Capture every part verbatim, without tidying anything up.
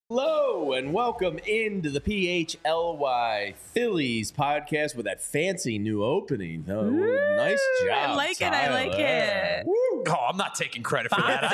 Hello and welcome into the P H L Y Phillies podcast with that fancy new opening. Oh, Ooh, nice job, I like Tyler. it. I like it. Woo. Oh, I'm not taking credit for that.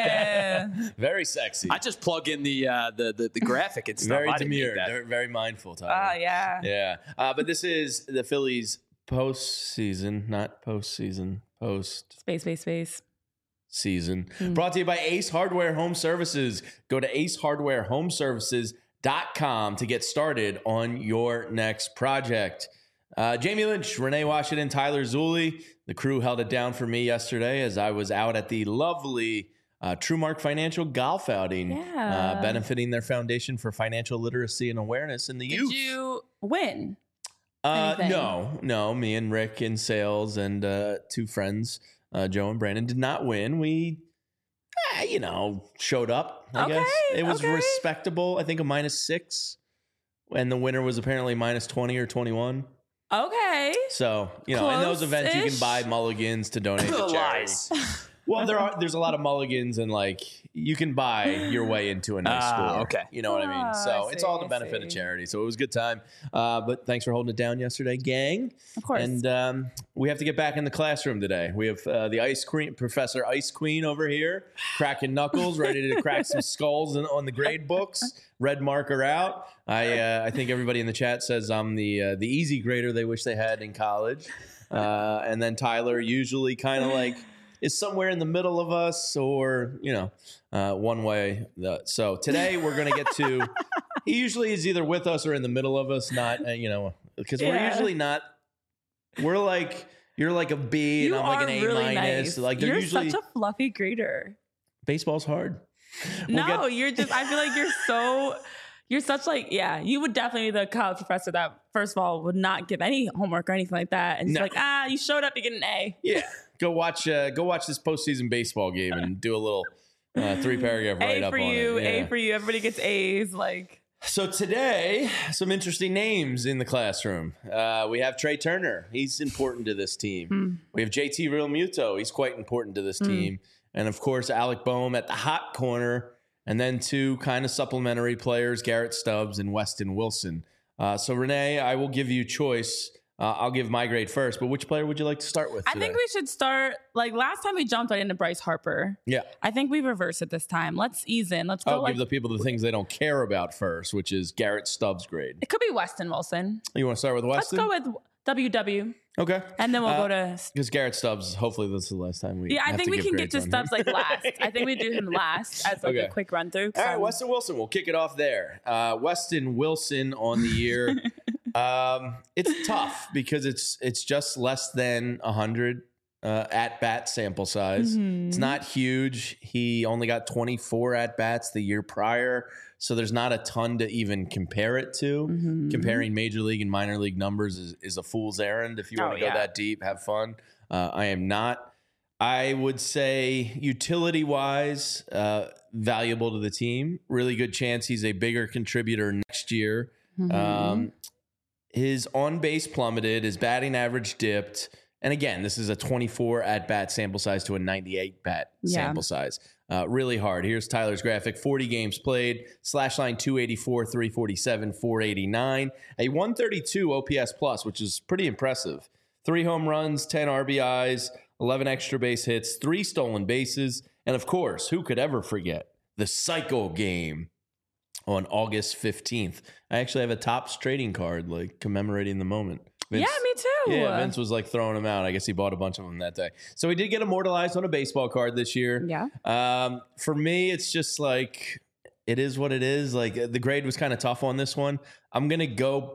I, Very sexy. I just plug in the uh, the, the the graphic and stuff. Very I didn't make demure. that. Very, very mindful, Tyler. Oh, yeah. Yeah. Uh, but this is the Phillies postseason, not postseason, post Space, space, space. season. Brought to you by Ace Hardware Home Services. Go to ace hardware home services dot com to get started on your next project. Uh, Jamie Lynch, Renee Washington, Tyler Zulli. The crew held it down for me yesterday as I was out at the lovely uh, Truemark Financial Golf Outing, Yeah. uh, benefiting their foundation for financial literacy and awareness in the Did youth. you win? Uh, anything? no, no. Me and Rick in sales and uh, two friends, uh, Joe and Brandon, did not win. We, eh, you know, showed up, I Okay, guess. It was okay. respectable. I think a minus six. And the winner was apparently minus twenty or twenty-one. Okay. So, you know, in those events, you can Close-ish. buy mulligans to donate to charity. Lies. Well, there are there's a lot of mulligans, and like you can buy your way into a nice Ah, score. okay. You know what I mean? Ah, So I it's see, all to I benefit of see. charity. So it was a good time. Uh, but thanks for holding it down yesterday, gang. Of course. And um, we have to get back in the classroom today. We have uh, the Ice Queen, Professor Ice Queen over here, cracking knuckles, ready to crack some skulls in, on the grade books. Red marker out. I uh, I think everybody in the chat says I'm the uh, the easy grader they wish they had in college. Uh, and then Tyler usually kind of like is somewhere in the middle of us, or you know, uh, one way. The, so today we're gonna get to. He usually is either with us or in the middle of us. Not uh, you know, because we're Yeah. usually not. We're like you're like a B you and I'm like are an A really minus. nice. Like they're You're usually such a fluffy grader. baseball's hard. We'll no, get- you're just, I feel like you're so, you're such like, yeah, you would definitely be the college professor that, first of all, would not give any homework or anything like that. And it's No. like, ah, you showed up, you get an A. Yeah, go watch. Uh, go watch this postseason baseball game and do a little uh, three paragraph write A up for on you, it. A Yeah. for you. Everybody gets A's. Like, So today, some interesting names in the classroom. Uh, we have Trey Turner. He's important to this team. Hmm. We have J T Realmuto. He's quite important to this team. And of course, Alec Boehm at the hot corner. And then two kind of supplementary players, Garrett Stubbs and Weston Wilson. Uh, so Renee, I will give you choice. Uh, I'll give my grade first. But which player would you like to start with I today? think we should start, like, last time we jumped right into Bryce Harper. Yeah. I think we reverse it this time. Let's ease in. Let's go I'll like, give the people the things they don't care about first, which is Garrett Stubbs' grade. it could be Weston Wilson. You want to start with Let's Weston? go with W W. Okay. And then we'll Uh, go to, Because Garrett Stubbs, hopefully this is the last time we yeah, I have think to we give can get to grades on him. Stubbs like last. I think we do him last as like Okay. a quick run through. All right, Weston Wilson. We'll kick it off there. Uh, Weston Wilson on the year. um, it's tough because it's it's just less than one hundred uh, at bat sample size. Mm-hmm. It's not huge. He only got twenty-four at bats the year prior, so there's not a ton to even compare it to. Mm-hmm. Comparing major league and minor league numbers is, is a fool's errand. If you want Oh, to go yeah. that deep, have fun. Uh, I am not. I would say utility wise, uh, valuable to the team. Really good chance he's a bigger contributor next year. Mm-hmm. Um, his on base plummeted, his batting average dipped. And again, this is a twenty-four at bat sample size to a ninety-eight bat Yeah. sample size. Uh, really hard. Here's Tyler's graphic: forty games played, slash line two eighty-four, three forty-seven, four eighty-nine, a one thirty-two O P S plus, which is pretty impressive. Three home runs, ten R B Is, eleven extra base hits, three stolen bases, and of course, who could ever forget the Psycho game on August fifteenth? I actually have a Topps trading card, like commemorating the moment. Vince- yeah, me too. yeah, Vince was like throwing them out. I guess he bought a bunch of them that day. So he did get immortalized on a baseball card this year. Yeah. Um, for me, it's just like it is what it is. Like the grade was kind of tough on this one. I'm gonna go.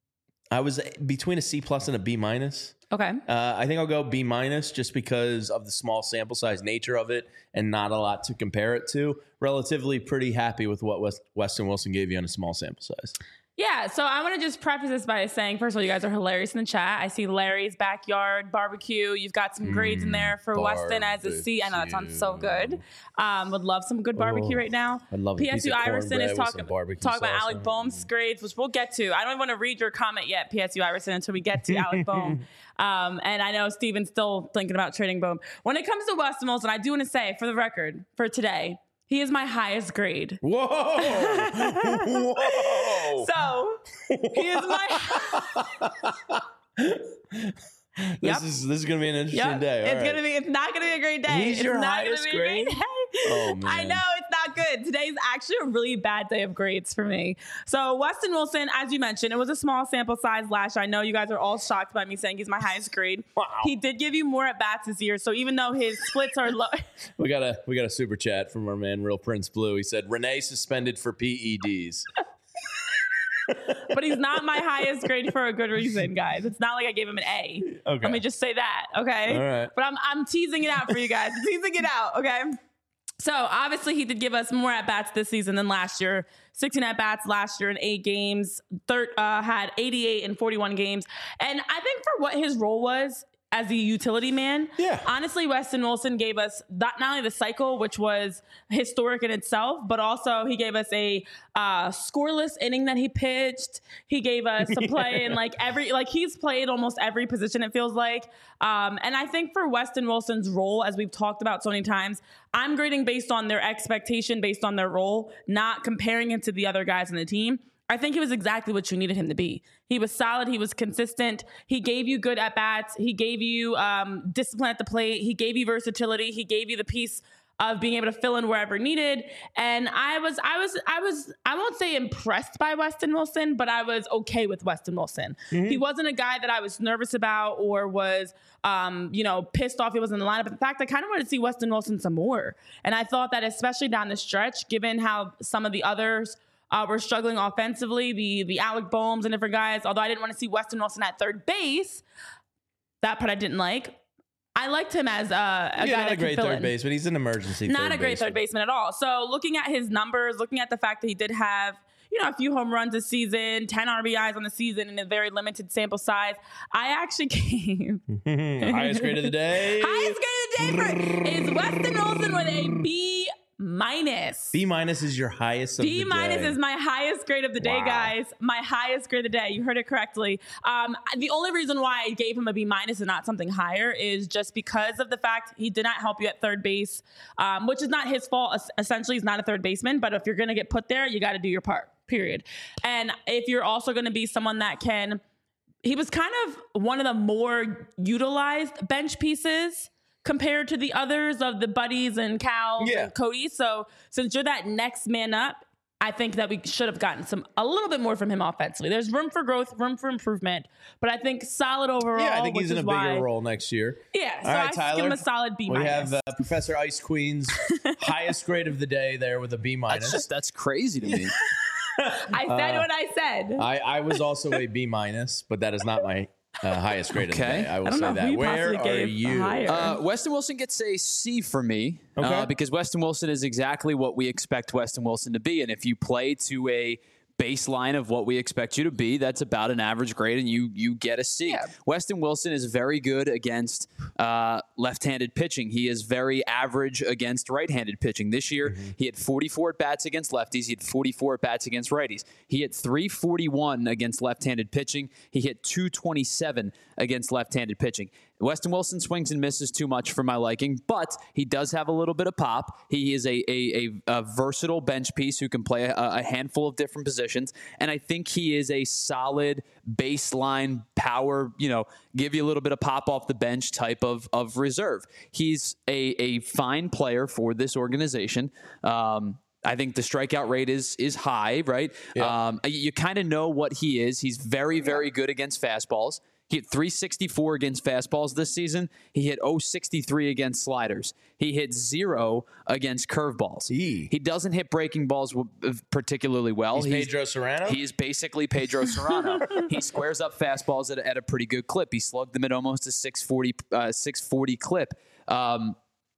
I was between a C plus and a B minus. Okay. Uh, I think I'll go B minus just because of the small sample size nature of it and not a lot to compare it to. Relatively pretty happy with what West, Weston Wilson gave you on a small sample size. Yeah, so I want to just preface this by saying, first of all, you guys are hilarious in the chat. I see Larry's backyard barbecue. You've got some grades in there for Weston as a C. I know that sounds so good. Um, would love some good barbecue Oh, right now. I'd love a piece P S U of Iverson is cornbread with talking some barbecue talking about sauce Alec on it. Boehm's grades, which we'll get to. I don't even want to read your comment yet, P S U Iverson, until we get to Alec Boehm. Um, and I know Steven's still thinking about trading Boehm. When it comes to Weston Wilson, I do want to say, for the record, for today, He is my highest grade. Whoa. Whoa. So he is my. This Yep. is this is gonna be an interesting Yep. day. All it's right. gonna be. It's not gonna be a great day. He's it's your not highest gonna be grade? a great day. Oh, man. I know it's not good. Today's actually a really bad day of grades for me. So Weston Wilson, as you mentioned, it was a small sample size last year. I know you guys are all shocked by me saying he's my highest grade. Wow. He did give you more at bats this year. So even though his splits are low, We got a we got a super chat from our man Real Prince Blue. He said Renee suspended for P E Ds. but he's not my highest grade for a good reason, guys. It's not like I gave him an A. Okay. Let me just say that, okay? All right. But I'm I'm teasing it out for you guys. teasing it out, okay? So obviously he did give us more at bats this season than last year. sixteen at bats last year in eight games. Third uh, had eighty-eight in forty-one games, and I think for what his role was as the utility man, Yeah. honestly, Weston Wilson gave us not, not only the cycle, which was historic in itself, but also he gave us a uh, scoreless inning that he pitched. He gave us a play in like every, like he's played almost every position, it feels like. Um, and I think for Weston Wilson's role, as we've talked about so many times, I'm grading based on their expectation, based on their role, not comparing him to the other guys in the team. I think he was exactly what you needed him to be. He was solid. He was consistent. He gave you good at-bats. He gave you um, discipline at the plate. He gave you versatility. He gave you the piece of being able to fill in wherever needed. And I was, I was, I was, I won't say impressed by Weston Wilson, but I was okay with Weston Wilson. Mm-hmm. He wasn't a guy that I was nervous about or was, um, you know, pissed off he wasn't in the lineup. But in fact, I kind of wanted to see Weston Wilson some more. And I thought that especially down the stretch, given how some of the others Uh, we're struggling offensively, the the Alec Boehms and different guys. Although I didn't want to see Weston Wilson at third base, that part I didn't like. I liked him as uh, a yeah, guy not that a great could fill third in. baseman. He's an emergency. Not third a great baseman. third baseman at all. So looking at his numbers, looking at the fact that he did have, you know, a few home runs this season, ten R B Is on the season in a very limited sample size, I actually came. Highest grade of the day. Highest grade of the day for, is Weston Wilson with a B minus. B minus is your highest of B the day. minus is my highest grade of the day, Wow. guys. My highest grade of the day. You heard it correctly. Um, the only reason why I gave him a B minus and not something higher is just because of the fact he did not help you at third base, um, which is not his fault. Essentially, he's not a third baseman, but if you're going to get put there, you got to do your part, period. And if you're also going to be someone that can, he was kind of one of the more utilized bench pieces compared to the others of the Buddies and Cals Yeah. and Cody. So since you're that next man up, I think that we should have gotten some a little bit more from him offensively. There's room for growth, room for improvement, but I think solid overall. Yeah, I think he's which in a is bigger why, role next year. Yeah, so All right, I just Tyler, give him a solid B We minus. have uh, Professor Ice Queen's highest grade of the day there with a B minus. That's just that's crazy to me. I said uh, what I said. I, I was also a B minus, but that is not my uh, highest grade Okay. of the day. I will I don't say know that. who you Where possibly are gave you? higher. Uh, Weston Wilson gets a C for me Okay. uh, because Weston Wilson is exactly what we expect Weston Wilson to be. And if you play to a baseline of what we expect you to be, that's about an average grade, and you you get a C. Yeah. Weston Wilson is very good against uh, left-handed pitching. He is very average against right-handed pitching. This year, Mm-hmm. he had forty-four at-bats against lefties. He had forty-four at-bats against righties. He hit three forty-one against left-handed pitching. He hit two twenty-seven against left-handed pitching. Weston Wilson swings and misses too much for my liking, but he does have a little bit of pop. He is a a, a, a versatile bench piece who can play a, a handful of different positions, and I think he is a solid baseline power, you know, give you a little bit of pop off the bench type of of reserve. He's a a fine player for this organization. Um, I think the strikeout rate is is high, right? Yeah. Um, you you kind of know what he is. He's very, very good against fastballs. He hit three sixty-four against fastballs this season. He hit oh sixty-three against sliders. He hit zero against curveballs. Eee. He doesn't hit breaking balls w- particularly well. He's Pedro Serrano? He is basically Pedro Serrano. He squares up fastballs at, a- at a pretty good clip. He slugged them at almost a six forty, uh, six forty clip. Um,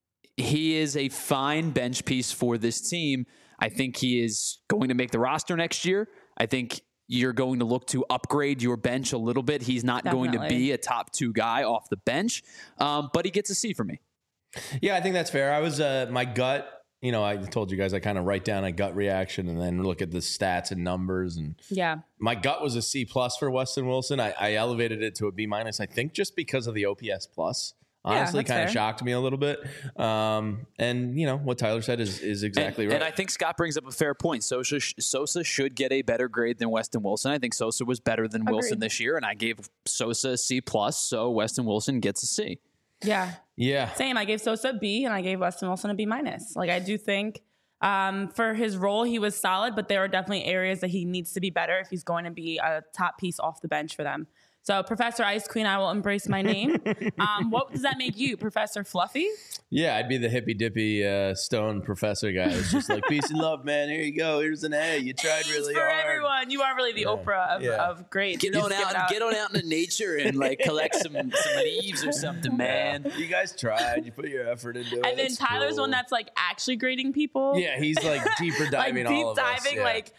he is a fine bench piece for this team. I think he is going to make the roster next year. I think you're going to look to upgrade your bench a little bit. He's not going to Definitely. be a top two guy off the bench, um, but he gets a C for me. Yeah, I think that's fair. I was uh, my gut. You know, I told you guys I kind of write down a gut reaction and then look at the stats and numbers. And yeah. my gut was a C plus for Weston Wilson. I, I elevated it to a B minus. I think just because of the O P S plus. Honestly, yeah, kind of fair. shocked me a little bit. Um, and, you know, what Tyler said is, is exactly and, right. And I think Scott brings up a fair point. Sosa, Sosa should get a better grade than Weston Wilson. I think Sosa was better than Agreed. Wilson this year, and I gave Sosa a C plus, so Weston Wilson gets a C. Yeah. Yeah. Same. I gave Sosa a B and I gave Weston Wilson a B minus. Like, I do think um, for his role, he was solid, but there are definitely areas that he needs to be better if he's going to be a top piece off the bench for them. So, Professor Ice Queen, I will embrace my name. um, what does that make you, Professor Fluffy? Yeah, I'd be the hippy dippy uh, stone professor guy. It's just like, peace and love, man. Here you go. Here's an A. You tried A's really for hard. everyone. You are really the Yeah. Oprah of, Yeah. of grades. Get You on just give out, it out. get on out into nature and like collect some some leaves or something, man. You guys tried. You put your effort into it. And then It's Tyler's cool. one that's like actually grading people. Yeah, he's like deeper like diving deep all of us. diving, Yeah. like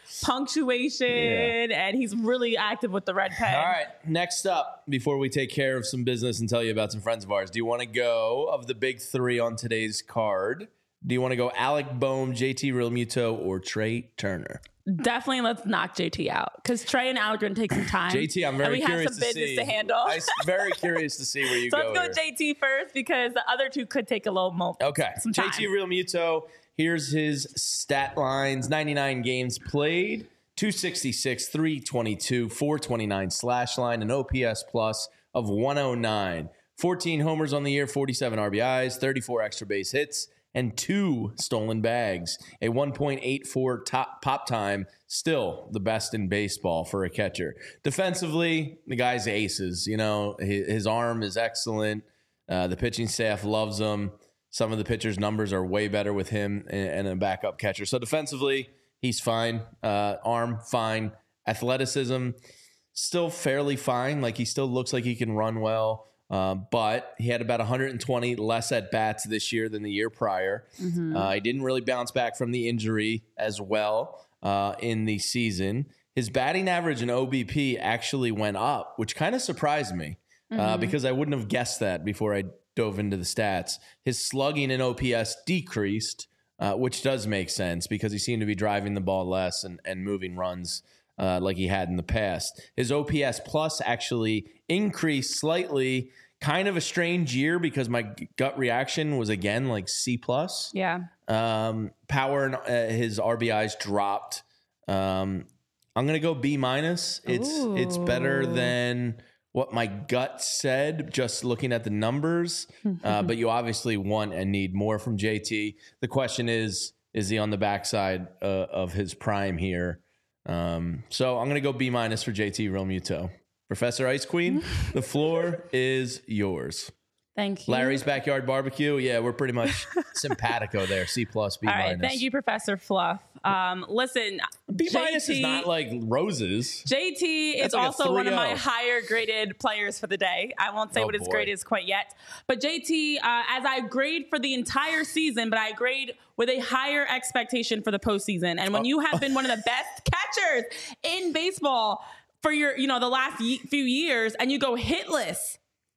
punctuation, and he's really active with the red pen. All right, next up, before we take care of some business and tell you about some friends of ours, do you want to go of the big three on today's card? Do you want to go Alec Boehm, J T Realmuto, or Trey Turner? Definitely let's knock J T out because Trey and Alec are going to take some time. J T, I'm very and we curious have some to business see. to handle. I'm very curious to see where you so go. let's go here. J T first because the other two could take a little mo- Okay, some J time. T Realmuto. Here's his stat lines: ninety-nine games played, two sixty-six, three twenty-two, four twenty-nine slash line, an O P S plus of one oh nine. fourteen homers on the year, forty-seven R B Is, thirty-four extra base hits, and two stolen bags. A one point eight four top pop time, still the best in baseball for a catcher. Defensively, the guy's aces. You know, his, his arm is excellent. Uh, the pitching staff loves him. Some of the pitchers' numbers are way better with him and, and a backup catcher. So defensively, he's fine. Uh, arm, fine. Athleticism, still fairly fine. Like, he still looks like he can run well. Uh, but he had about one hundred twenty less at bats this year than the year prior. Mm-hmm. Uh, he didn't really bounce back from the injury as well uh, in the season. His batting average and O B P actually went up, which kind of surprised me Mm-hmm. uh, because I wouldn't have guessed that before I dove into the stats. His slugging and O P S decreased, uh, which does make sense because he seemed to be driving the ball less and, and moving runs uh, like he had in the past. His O P S plus actually increased slightly. Kind of a strange year because my gut reaction was again like C plus. Yeah. Um, power and uh, his R B Is dropped. Um, I'm gonna go B minus. It's Ooh. it's better than what my gut said, just looking at the numbers. Uh, but you obviously want and need more from J T. The question is, is he on the backside uh, of his prime here? Um, so I'm gonna go B minus for J T Realmuto. Professor Ice Queen, the floor is yours. Thank you. Larry's Backyard Barbecue. Yeah, we're pretty much simpatico there. C plus, B All minus. right. Thank you, Professor Fluff. Um, listen, B minus J T is not like roses. J T is That's like a also one of my three oh. higher graded players for the day. I won't say Oh, what his boy. grade is quite yet. But J T, uh, as I grade for the entire season, but I grade with a higher expectation for the postseason. And when Oh. you have been one of the best catchers in baseball for your, you know, the last ye- few years, and you go hitless,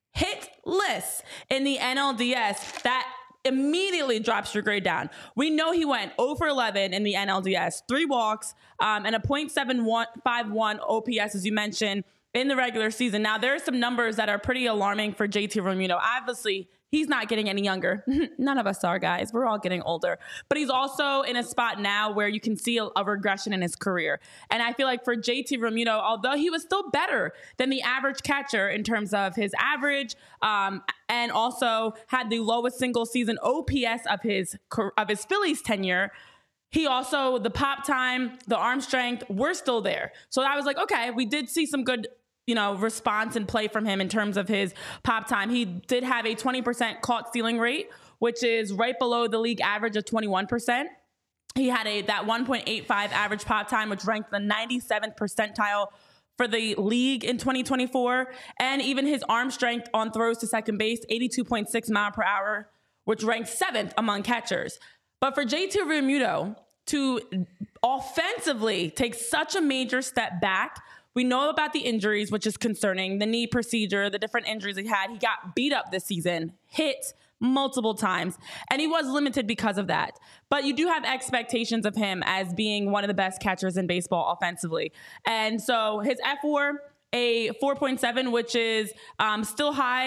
hitless in the N L D S, that immediately drops your grade down. We know he went oh for eleven in the N L D S, three walks, um, and a point seven five one O P S, as you mentioned, in the regular season. Now, there are some numbers that are pretty alarming for J T Realmuto. Obviously, he's not getting any younger. None of us are, guys. We're all getting older. But he's also in a spot now where you can see a, a regression in his career. And I feel like for J T Realmuto, although he was still better than the average catcher in terms of his average, um, and also had the lowest single season O P S of his of his Phillies tenure, he also, the pop time, the arm strength, we're still there. So I was like, okay, we did see some good, you know, response and play from him in terms of his pop time. He did have a twenty percent caught stealing rate, which is right below the league average of twenty-one percent. He had a that one point eight five average pop time, which ranked the ninety-seventh percentile for the league in twenty twenty-four. And even his arm strength on throws to second base, eighty-two point six mile per hour, which ranked seventh among catchers. But for J T Realmuto to offensively take such a major step back, we know about the injuries, which is concerning, the knee procedure, the different injuries he had. He got beat up this season, hit multiple times, and he was limited because of that. But you do have expectations of him as being one of the best catchers in baseball offensively. And so his F W A R, a four point seven, which is um, still high,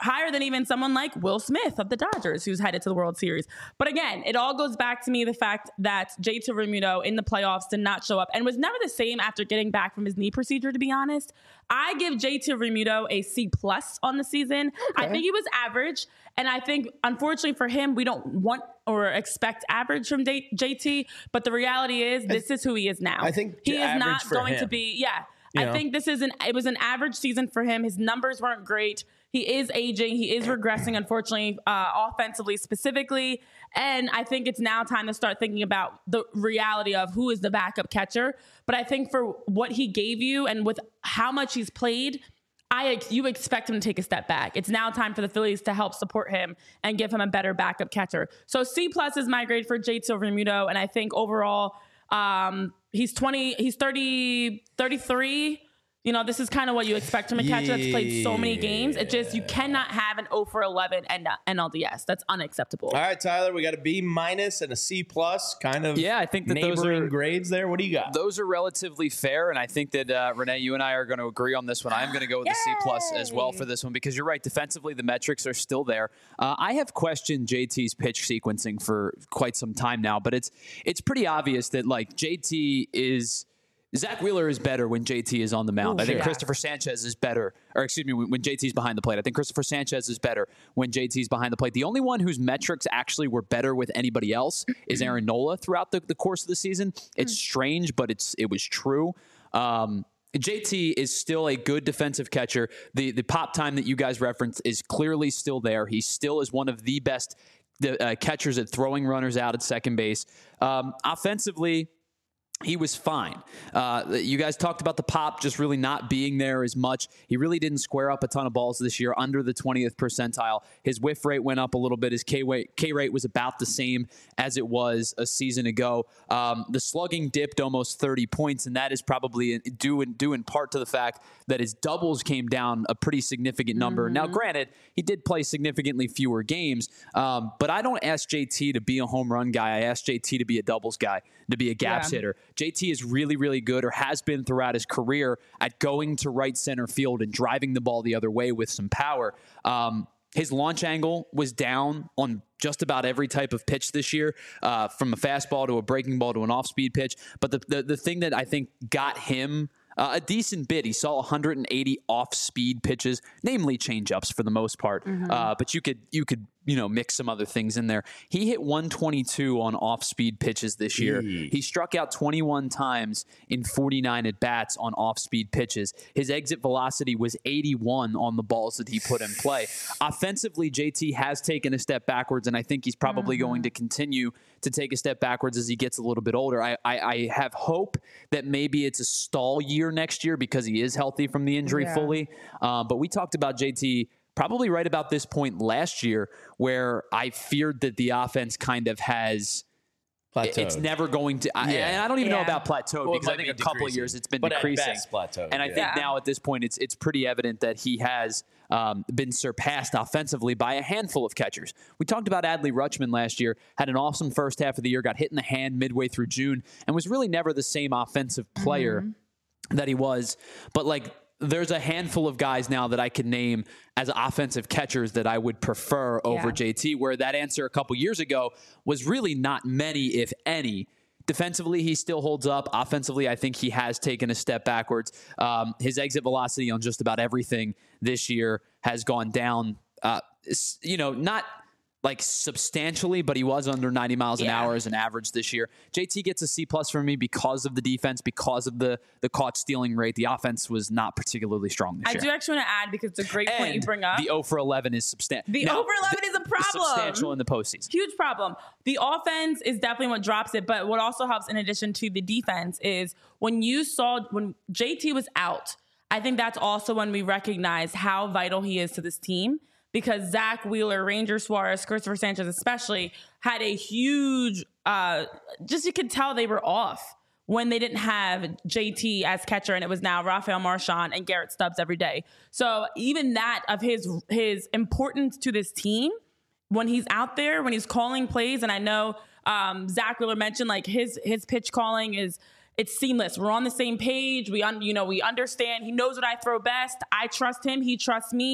higher than even someone like Will Smith of the Dodgers, who's headed to the World Series. But again, it all goes back to me the fact that J T Realmuto in the playoffs did not show up and was never the same after getting back from his knee procedure, to be honest. I give J T Realmuto a C plus on the season. Okay. I think he was average. And I think, unfortunately for him, we don't want or expect average from J T. But the reality is, this is who he is now. I think he is not going him. to be, yeah. You I know? think this is an, it was an average season for him. His numbers weren't great. He is aging. He is regressing, unfortunately, uh, offensively specifically. And I think it's now time to start thinking about the reality of who is the backup catcher. But I think for what he gave you and with how much he's played, I you expect him to take a step back. It's now time for the Phillies to help support him and give him a better backup catcher. So C plus is my grade for J T Realmuto. And I think overall, um, he's twenty, he's thirty, thirty-three. You know, this is kind of what you expect from a catcher that's played so many games. It just, you cannot have an oh for eleven and N L D S. That's unacceptable. All right, Tyler, we got a B minus and a C plus, kind of. Yeah, I think that neighboring those are grades there. What do you got? Those are relatively fair, and I think that uh, Renee, you and I are going to agree on this one. I'm going to go with a C plus as well for this one because you're right. Defensively, the metrics are still there. Uh, I have questioned J T's pitch sequencing for quite some time now, but it's it's pretty obvious that like J T is. Zach Wheeler is better when J T is on the mound. Ooh, I think yeah. Christopher Sanchez is better, or excuse me, when, when J T's behind the plate. I think Christopher Sanchez is better when J T's behind the plate. The only one whose metrics actually were better with anybody else is Aaron Nola throughout the, the course of the season. It's strange, but it's it was true. Um, J T is still a good defensive catcher. The the pop time that you guys referenced is clearly still there. He still is one of the best the, uh, catchers at throwing runners out at second base. Um, offensively, he was fine. Uh, you guys talked about the pop just really not being there as much. He really didn't square up a ton of balls this year under the twentieth percentile. His whiff rate went up a little bit. His K rate, K rate was about the same as it was a season ago. Um, the slugging dipped almost thirty points, and that is probably due in, due in part to the fact that his doubles came down a pretty significant number. Mm-hmm. Now, granted, he did play significantly fewer games, um, but I don't ask J T to be a home run guy. I ask J T to be a doubles guy, to be a gaps yeah. hitter. J T is really, really good, or has been throughout his career, at going to right center field and driving the ball the other way with some power. Um, his launch angle was down on just about every type of pitch this year, uh, from a fastball to a breaking ball to an off-speed pitch. But the, the, the thing that I think got him Uh, a decent bit. He saw one hundred eighty off-speed pitches, namely changeups for the most part. Mm-hmm. Uh, but you could you could you know mix some other things in there. He hit one twenty-two on off-speed pitches this year. Gee. He struck out twenty-one times in forty-nine at bats on off-speed pitches. His exit velocity was eighty-one on the balls that he put in play. Offensively, J T has taken a step backwards, and I think he's probably mm-hmm. going to continue to take a step backwards as he gets a little bit older. I, I, I have hope that maybe it's a stall year next year because he is healthy from the injury yeah. fully. Uh, but we talked about J T probably right about this point last year, where I feared that the offense kind of has plateaued. It's never going to. I, yeah. And I don't even yeah. know about plateaued well, because I think be a couple of years it's been but decreasing. At best plateaued, and I yeah. think yeah. now at this point it's it's pretty evident that he has um, been surpassed offensively by a handful of catchers. We talked about Adley Rutschman last year. Had an awesome first half of the year. Got hit in the hand midway through June, and was really never the same offensive player mm-hmm. that he was. But like. There's a handful of guys now that I can name as offensive catchers that I would prefer over yeah. J T, where that answer a couple years ago was really not many, if any. Defensively, he still holds up. Offensively, I think he has taken a step backwards. Um, his exit velocity on just about everything this year has gone down, uh, you know, not like substantially, but he was under ninety miles an yeah. hour as an average this year. J T gets a C plus from me because of the defense, because of the the caught stealing rate. The offense was not particularly strong this I year. I do actually want to add, because it's a great and point you bring up. The oh for eleven is substantial. The now, oh for eleven is a problem. Substantial in the postseason. Huge problem. The offense is definitely what drops it, but what also helps in addition to the defense is when you saw, when J T was out, I think that's also when we recognize how vital he is to this team. Because Zach Wheeler, Ranger Suarez, Christopher Sanchez especially, had a huge, uh, just you could tell they were off when they didn't have J T as catcher, and it was now Rafael Marchand and Garrett Stubbs every day. So even that of his his importance to this team, when he's out there, when he's calling plays, and I know um, Zach Wheeler mentioned like his his pitch calling is, it's seamless. We're on the same page. We un, you know we understand. He knows what I throw best. I trust him. He trusts me.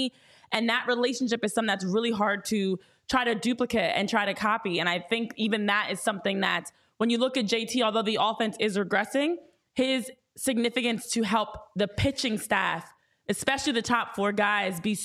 And that relationship is something that's really hard to try to duplicate and try to copy. And I think even that is something that when you look at J T, although the offense is regressing, his significance to help the pitching staff, especially the top four guys, be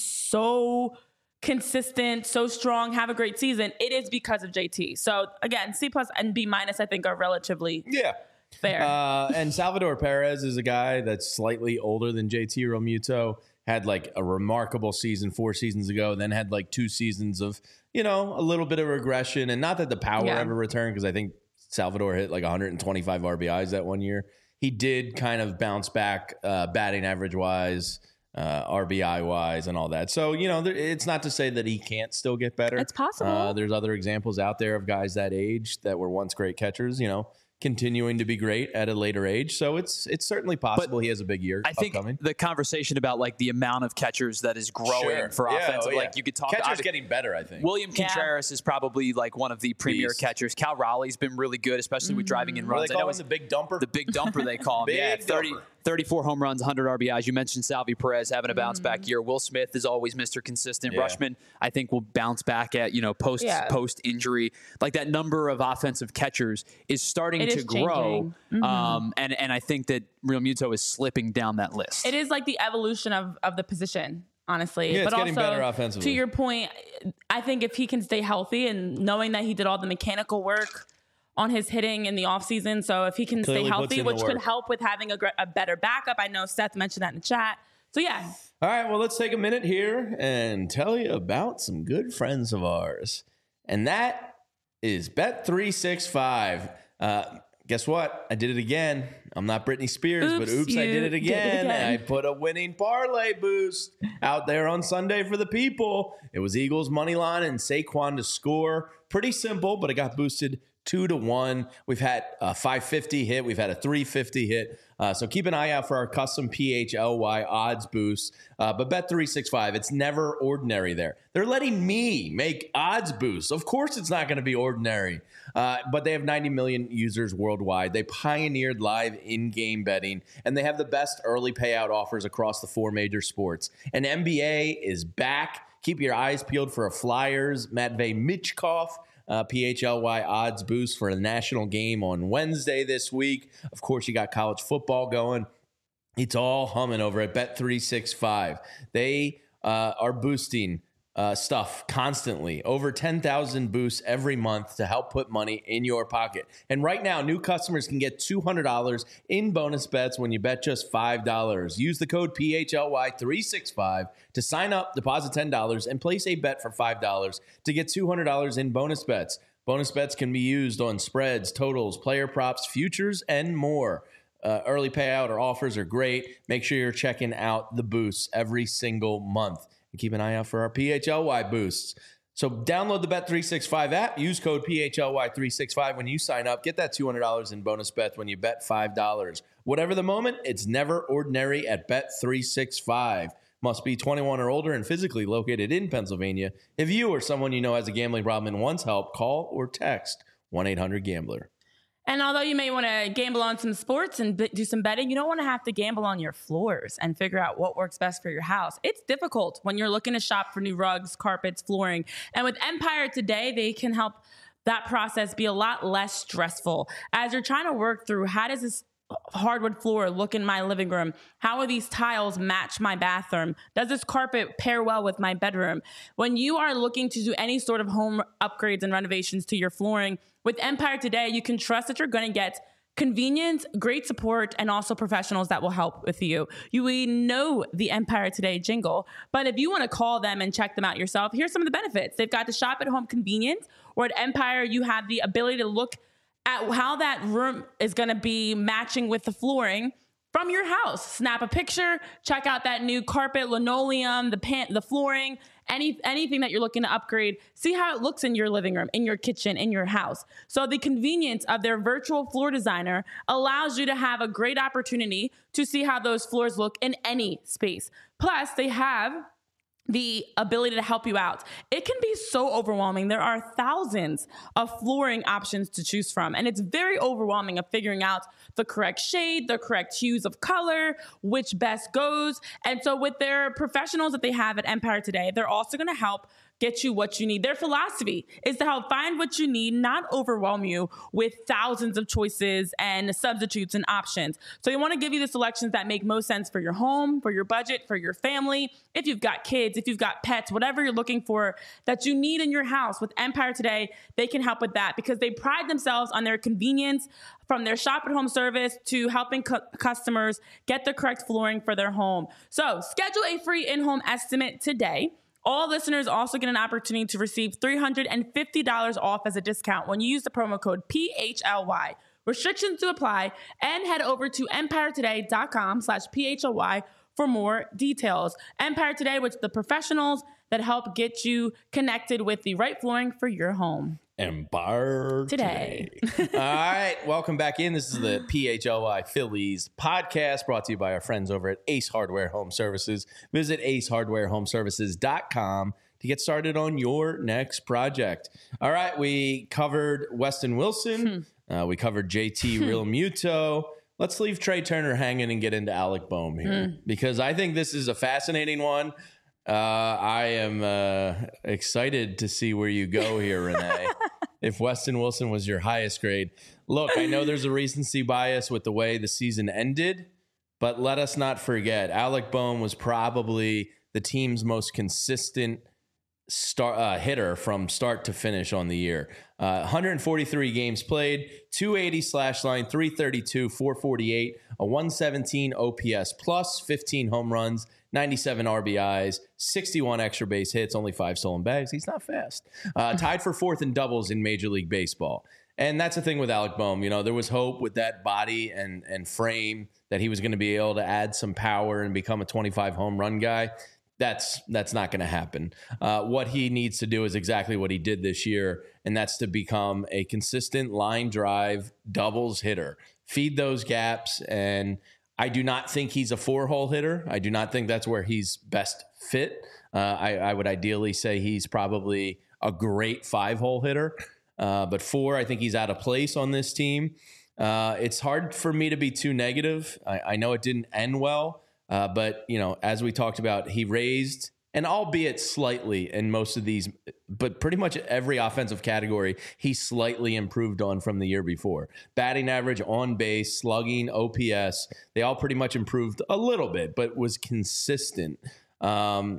so consistent, so strong, have a great season, it is because of J T. So again, C plus and B minus, I think, are relatively yeah. fair. Uh, and Salvador Perez is a guy that's slightly older than J T Realmuto. Had like a remarkable season four seasons ago, then had like two seasons of, you know, a little bit of regression. And not that the power Yeah. ever returned, because I think Salvador hit like one hundred twenty-five R B Is that one year. He did kind of bounce back uh, batting average wise, uh, R B I wise, and all that. So, you know, there, it's not to say that he can't still get better. It's possible. Uh, there's other examples out there of guys that age that were once great catchers, you know, continuing to be great at a later age. So it's it's certainly possible But he has a big year I think upcoming. the conversation about like the amount of catchers that is growing Sure. for Yeah, offensive, oh, yeah. like you could talk. Catcher's I- getting better, I think. William Yeah. Contreras is probably like one of the premier Beast. catchers. Cal Raleigh's been really good, especially with driving in What do runs. they I call know him, he's the big dumper? the big dumper they call him. Big yeah, thirty, dumper. thirty-four home runs, one hundred R B Is. You mentioned Salvi Perez having a bounce back year. Will Smith is always Mister Consistent. Yeah. Rushman, I think, will bounce back at, you know, post Yeah. post injury. Like that number of offensive catchers is starting It to is grow. changing. Um, and and I think that Real Muto is slipping down that list. It is like the evolution of, of the position, honestly. Yeah, it's but getting also, better offensively. to your point, I think if he can stay healthy and knowing that he did all the mechanical work on his hitting in the offseason, so if he can Clearly stay puts healthy, in the which could work. help with having a, gr- a better backup. I know Seth mentioned that in the chat. So yeah, All right, well, let's take a minute here and tell you about some good friends of ours. And that is Bet three sixty-five. Uh, guess what? I did it again. I'm not Britney Spears, but Oops, oops, I you did it did it again. again. I put a winning parlay boost out there on Sunday for the people. It was Eagles money line and Saquon to score. Pretty simple, but it got boosted two to one. We've had a five fifty hit. We've had a three fifty hit. Uh, so keep an eye out for our custom P H L Y odds boost. Uh, but Bet three sixty-five, it's never ordinary there. They're letting me make odds boosts. Of course it's not going to be ordinary. Uh, but they have ninety million users worldwide. They pioneered live in-game betting, and they have the best early payout offers across the four major sports. And N B A is back. Keep your eyes peeled for a Flyers, Matvey Michkov, Uh, P H L Y odds boost for a national game on Wednesday this week. Of course, you got college football going. It's all humming over at Bet three sixty-five. They uh, are boosting uh, stuff constantly. Over ten thousand boosts every month to help put money in your pocket. And right now, new customers can get two hundred dollars in bonus bets when you bet just five dollars. Use the code P H L Y three sixty-five to sign up, deposit ten dollars, and place a bet for five dollars to get two hundred dollars in bonus bets. Bonus bets can be used on spreads, totals, player props, futures, and more. Uh, early payout or offers are great. Make sure you're checking out the boosts every single month. And keep an eye out for our P H L Y boosts. So download the Bet three sixty-five app. Use code P H L Y three sixty-five when you sign up. Get that two hundred dollars in bonus bets when you bet five dollars. Whatever the moment, it's never ordinary at Bet three sixty-five. Must be twenty-one or older and physically located in Pennsylvania. If you or someone you know has a gambling problem and wants help, call or text one eight hundred gambler. and although you may want to gamble on some sports and b- do some betting, you don't want to have to gamble on your floors and figure out what works best for your house. It's difficult when you're looking to shop for new rugs, carpets, flooring. And with Empire Today, they can help that process be a lot less stressful. As you're trying to work through, how does this hardwood floor look in my living room? How will these tiles match my bathroom? Does this carpet pair well with my bedroom? When you are looking to do any sort of home upgrades and renovations to your flooring, with Empire Today, you can trust that you're going to get convenience, great support, and also professionals that will help with you. You we know the Empire Today jingle, but if you want to call them and check them out yourself, here's some of the benefits. They've got the shop at home convenience, or at Empire, you have the ability to look at how that room is going to be matching with the flooring from your house. Snap a picture, check out that new carpet, linoleum, the pan, the flooring, any anything that you're looking to upgrade. See how it looks in your living room, in your kitchen, in your house. So the convenience of their virtual floor designer allows you to have a great opportunity to see how those floors look in any space. Plus, they have the ability to help you out. It can be so overwhelming. There are thousands of flooring options to choose from, and it's very overwhelming of figuring out the correct shade, the correct hues of color, which best goes. And so with their professionals that they have at Empire Today, they're also going to help get you what you need. Their philosophy is to help find what you need, not overwhelm you with thousands of choices and substitutes and options. So you want to give you the selections that make most sense for your home, for your budget, for your family. If you've got kids, if you've got pets, whatever you're looking for that you need in your house, with Empire Today, they can help with that because they pride themselves on their convenience, from their shop at home service to helping cu- customers get the correct flooring for their home. So schedule a free in-home estimate today. All listeners also get an opportunity to receive three hundred fifty dollars off as a discount when you use the promo code P H L Y. Restrictions to apply, and head over to empiretoday.com slash P H L Y for more details. Empire Today, with the professionals that help get you connected with the right flooring for your home. Empire Today. Today. All right, welcome back in. This is the P H L Y Phillies podcast, brought to you by our friends over at Ace Hardware Home Services. Visit ace hardware home services dot com to get started on your next project. All right, we covered Weston Wilson. Hmm. Uh, we covered J T Real Muto. Let's leave Trey Turner hanging and get into Alec Bohm here, hmm. because I think this is a fascinating one. Uh, I am uh, excited to see where you go here, Renee. If Weston Wilson was your highest grade. Look, I know there's a recency bias with the way the season ended, but let us not forget, Alec Bohm was probably the team's most consistent star, uh, hitter from start to finish on the year. Uh, one hundred forty-three games played, two eighty slash line, three thirty-two, four forty-eight, a one seventeen O P S plus, fifteen home runs, ninety-seven R B Is, sixty-one extra base hits, only five stolen bags. He's not fast. Uh, tied for fourth in doubles in Major League Baseball. And that's the thing with Alec Bohm. You know, there was hope with that body and, and frame that he was going to be able to add some power and become a twenty-five home run guy. That's that's not going to happen. Uh, what he needs to do is exactly what he did this year, and that's to become a consistent line drive doubles hitter. Feed those gaps, and I do not think he's a four-hole hitter. I do not think that's where he's best fit. Uh, I, I would ideally say he's probably a great five-hole hitter, uh, but four, I think he's out of place on this team. Uh, it's hard for me to be too negative. I, I know it didn't end well. Uh, but, you know, as we talked about, he raised, and albeit slightly in most of these, but pretty much every offensive category, he slightly improved on from the year before. Batting average, on base, slugging, O P S, they all pretty much improved a little bit, but was consistent. Um,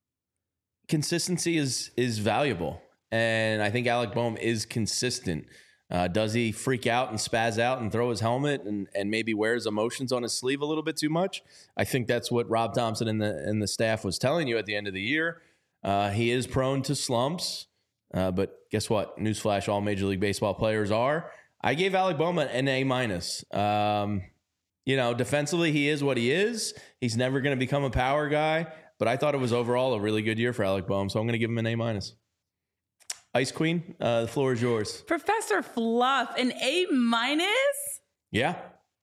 consistency is is valuable, and I think Alec Bohm is consistent. Uh, does he freak out and spaz out and throw his helmet and, and maybe wears emotions on his sleeve a little bit too much? I think that's what Rob Thompson and the and the staff was telling you at the end of the year. Uh, he is prone to slumps, uh, but guess what? Newsflash, all Major League Baseball players are. I gave Alec Bohm an A minus. Um, you know, defensively, he is what he is. He's never going to become a power guy, but I thought it was overall a really good year for Alec Bohm, so I'm going to give him an A minus. Ice Queen, uh, the floor is yours. Professor Fluff, an A minus? Yeah.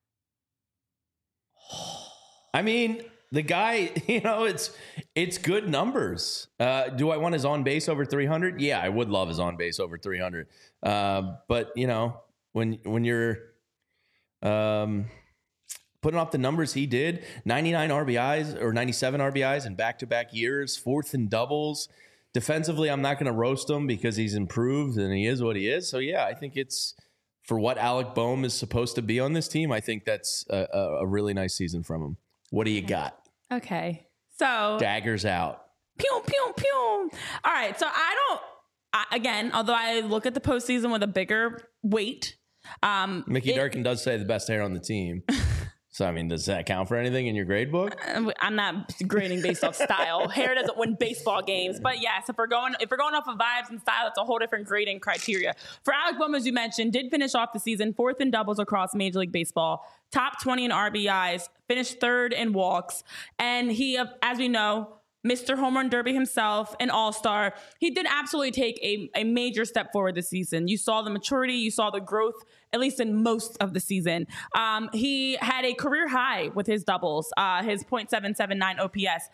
I mean, the guy, you know, it's it's good numbers. Uh, do I want his on base over three hundred? Yeah, I would love his on base over three hundred. Uh, but you know, when when you're um, putting up the numbers he did, ninety-nine R B Is or ninety-seven R B Is in back-to-back years, fourth in doubles. Defensively, I'm not going to roast him because he's improved and he is what he is. So, yeah, I think it's for what Alec Bohm is supposed to be on this team. I think that's a, a really nice season from him. What do you got? Okay. So daggers out. Pew, pew, pew. All right. So I don't, I, again, although I look at the postseason with a bigger weight. Um, Mickey it, Durkin does say the best hair on the team. So, I mean, does that count for anything in your grade book? I'm not grading based off style. Hair doesn't win baseball games. But yes, if we're going if we're going off of vibes and style, it's a whole different grading criteria. For Alec Bohm, as you mentioned, did finish off the season fourth in doubles across Major League Baseball, top twenty in R B Is, finished third in walks. And he, as we know, Mister Home Run Derby himself, an all-star. He did absolutely take a, a major step forward this season. You saw the maturity, you saw the growth, at least in most of the season. Um, he had a career high with his doubles, uh, his point seven seven nine O P S.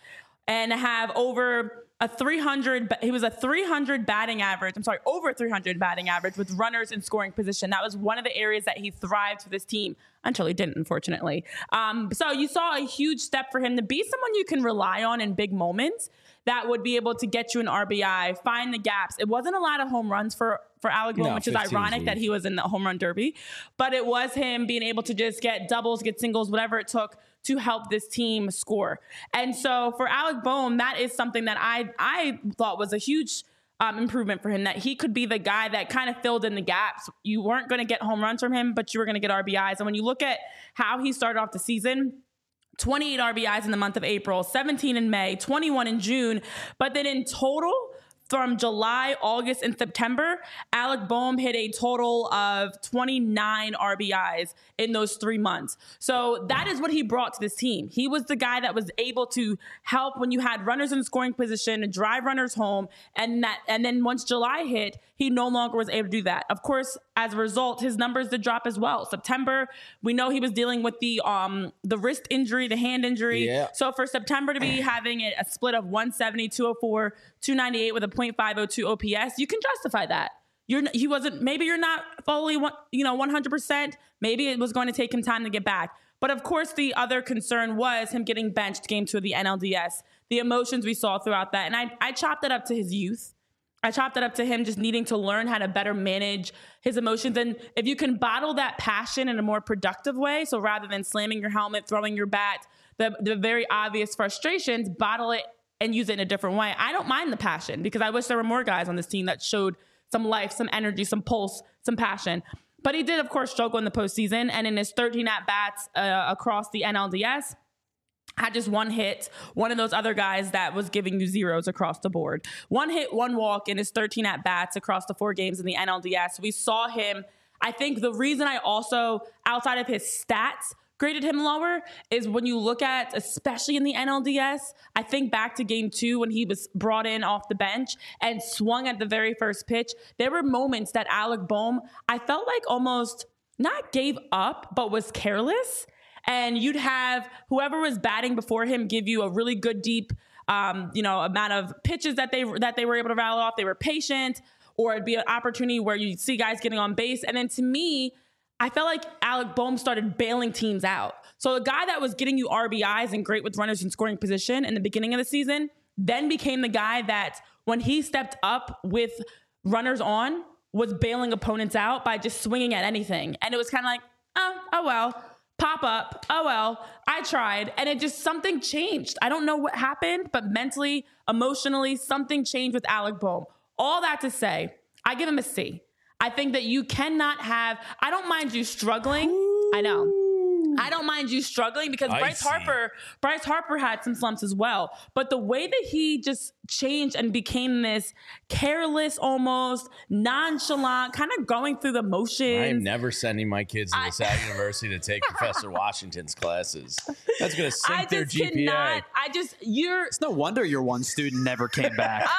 and have over a three hundred, he was a three hundred batting average. I'm sorry, over three hundred batting average with runners in scoring position. That was one of the areas that he thrived for this team until he didn't, unfortunately. Um, so you saw a huge step for him to be someone you can rely on in big moments that would be able to get you an R B I, find the gaps. It wasn't a lot of home runs for, for Alec Bohm, no, which is ironic that he was in the home run derby, but it was him being able to just get doubles, get singles, whatever it took to help this team score. And so for Alec Bohm, that is something that I I thought was a huge um, improvement for him, that he could be the guy that kind of filled in the gaps. You weren't going to get home runs from him, but you were going to get R B Is. And when you look at how he started off the season, twenty-eight R B Is in the month of April, seventeen in May, twenty-one in June, but then in total, from July, August, and September, Alec Bohm hit a total of twenty-nine R B Is in those three months. So that is what he brought to this team. He was the guy that was able to help when you had runners in scoring position, drive runners home, and that. And then once July hit, he no longer was able to do that. Of course, as a result, his numbers did drop as well. September, we know he was dealing with the um the wrist injury, the hand injury. Yeah. So for September to be having a, a split of one seventy, two oh four, two ninety-eight with a point five oh two O P S, you can justify that. You're he wasn't maybe you're not fully one, you know one hundred percent. Maybe it was going to take him time to get back. But of course, the other concern was him getting benched game two of the N L D S. The emotions we saw throughout that, and I I chopped it up to his youth. I chopped it up to him just needing to learn how to better manage his emotions. And if you can bottle that passion in a more productive way, so rather than slamming your helmet, throwing your bat, the, the very obvious frustrations, bottle it and use it in a different way. I don't mind the passion because I wish there were more guys on this team that showed some life, some energy, some pulse, some passion. But he did, of course, struggle in the postseason. And in his thirteen at-bats uh, across the N L D S, had just one hit, one of those other guys that was giving you zeros across the board. One hit, one walk in his thirteen at-bats across the four games in the N L D S. We saw him. I think the reason I also, outside of his stats, graded him lower is when you look at, especially in the N L D S, I think back to game two when he was brought in off the bench and swung at the very first pitch. There were moments that Alec Bohm, I felt like almost not gave up, but was careless. And you'd have whoever was batting before him give you a really good deep, um, you know, amount of pitches that they that they were able to rattle off. They were patient, or it'd be an opportunity where you see guys getting on base. And then to me, I felt like Alec Bohm started bailing teams out. So the guy that was getting you R B Is and great with runners in scoring position in the beginning of the season, then became the guy that when he stepped up with runners on, was bailing opponents out by just swinging at anything. And it was kind of like, oh, oh well. Pop up. Oh, well, I tried. And it just, something changed. I don't know what happened, but mentally, emotionally, something changed with Alec Bohm. All that to say, I give him a C. I think that you cannot have, I don't mind you struggling. Ooh. I know. I don't mind you struggling because I Bryce see. Harper, Bryce Harper had some slumps as well. But the way that he just changed and became this careless, almost nonchalant, kind of going through the motions. I'm never sending my kids to LaSalle University to take Professor Washington's classes. That's going to sink I their just G P A. Cannot, I just, you're. It's no wonder your one student never came back.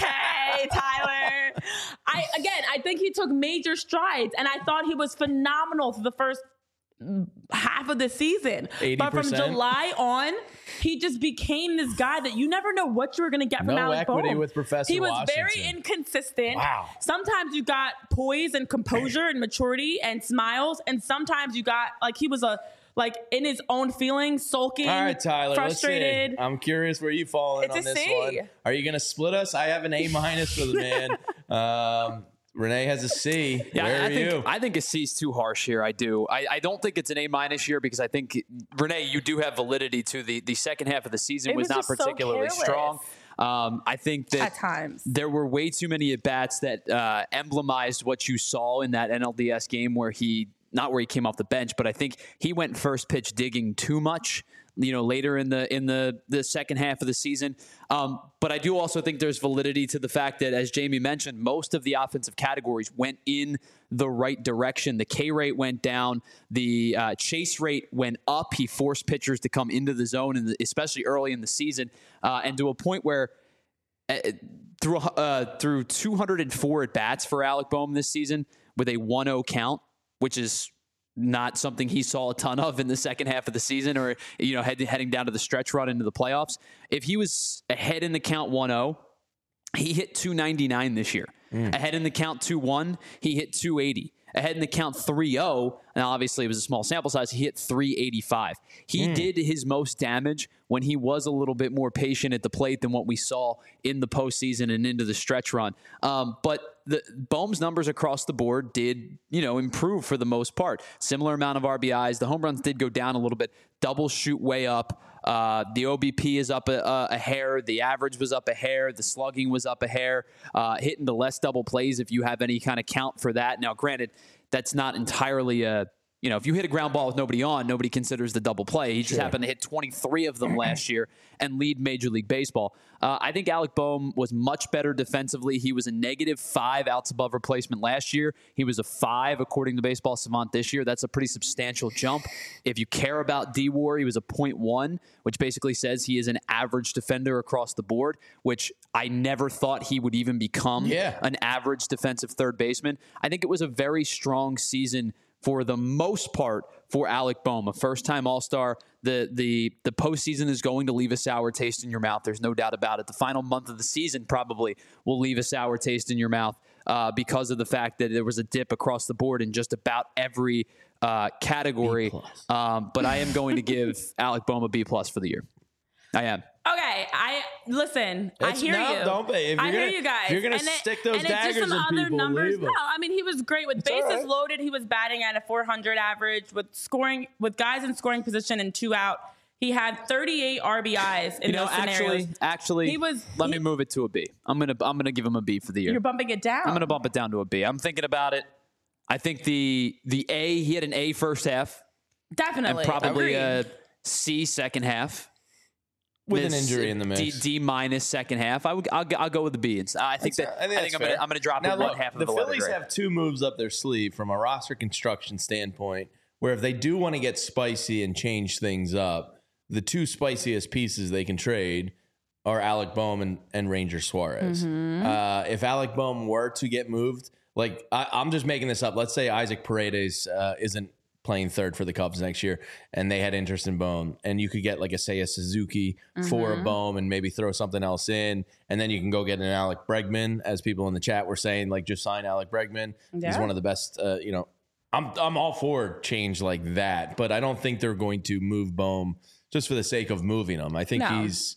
Okay, Tyler. I again, I think he took major strides, and I thought he was phenomenal for the first half of the season. eighty percent. But from July on, he just became this guy that you never know what you were going to get from no Alec equity Bohm. with Professor He was Washington. very inconsistent. Wow. Sometimes you got poise and composure and maturity and smiles, and sometimes you got like he was a like in his own feelings, sulking, all right, Tyler, frustrated. Let's see. I'm curious where you fall in it's on a this C. one. Are you going to split us? I have an A minus for the man. Um, Renee has a C. Yeah, Where I are think you? I think a C is too harsh here. I do. I, I don't think it's an A minus here because I think Renee, you do have validity to the the second half of the season It was, was not just so particularly careless. strong. Um, I think that At times. there were way too many at bats that uh, emblemized what you saw in that N L D S game where he not where he came off the bench, but I think he went first pitch digging too much. You know, later in the in the the second half of the season. Um, but I do also think there's validity to the fact that, as Jamie mentioned, most of the offensive categories went in the right direction. The K rate went down. The uh, chase rate went up. He forced pitchers to come into the zone, and especially early in the season, uh, and to a point where uh, through uh, through two hundred four at bats for Alec Bohm this season with a one oh count, which is not something he saw a ton of in the second half of the season, or, you know, head, heading down to the stretch run into the playoffs. If he was ahead in the count one oh, he hit two ninety-nine this year. Mm. Ahead in the count two one, he hit two eighty. Ahead in the count three oh, and obviously it was a small sample size, he hit three eighty-five. He mm. did his most damage when he was a little bit more patient at the plate than what we saw in the postseason and into the stretch run. Um, but the Bohm's numbers across the board did, you know, improve for the most part. Similar amount of R B Is. The home runs did go down a little bit. Double shoot way up. Uh, the O B P is up a, a, a hair. The average was up a hair. The slugging was up a hair. Uh, hitting the less double plays, if you have any kind of count for that. Now, granted, that's not entirely a, you know, if you hit a ground ball with nobody on, nobody considers the double play. He just sure. happened to hit twenty-three of them last year and lead Major League Baseball. Uh, I think Alec Bohm was much better defensively. He was a negative five outs above replacement last year. He was a five according to Baseball Savant this year. That's a pretty substantial jump. If you care about D W A R, he was a point one, which basically says he is an average defender across the board, which I never thought he would even become yeah. an average defensive third baseman. I think it was a very strong season for the most part for Alec Bohm, a first-time All-Star. The the the postseason is going to leave a sour taste in your mouth. There's no doubt about it. The final month of the season probably will leave a sour taste in your mouth uh, because of the fact that there was a dip across the board in just about every uh, category. Um, but I am going to give Alec Bohm a B plus for the year. I am. Okay, I listen. It's, I hear no, you. Don't be. If you're I gonna, hear you guys. If you're gonna and stick it, those and daggers just some in other people, numbers. leave them. No, I mean he was great with It's bases right. loaded. He was batting at a four hundred average with scoring with guys in scoring position and two out. He had thirty-eight R B Is in you know, those scenarios. Actually, actually, he was. Let he, me move it to a B. I'm gonna I'm gonna give him a B for the year. You're bumping it down. I'm gonna bump it down to a B. I'm thinking about it. I think the the A. He had an A first half. Definitely. And probably Agreed. a C second half. With an injury in the mix. D, D minus second half. I would, I'll, I'll go with the B. I think that. I think, I think I'm going to I'm going to drop now, it look, one half of the the Phillies letter have two moves up their sleeve from a roster construction standpoint, where if they do want to get spicy and change things up, the two spiciest pieces they can trade are Alec Bohm and, and Ranger Suarez. Mm-hmm. Uh, if Alec Bohm were to get moved, like I, I'm just making this up. Let's say Isaac Paredes uh, isn't playing third for the Cubs next year, and they had interest in Bohm, and you could get like a Seiya Suzuki mm-hmm. for a Bohm and maybe throw something else in, and then you can go get an Alec Bregman, as people in the chat were saying, like just sign Alec Bregman. Yeah. He's one of the best, uh, you know, I'm I'm all for change like that, but I don't think they're going to move Bohm just for the sake of moving him. I think no. he's,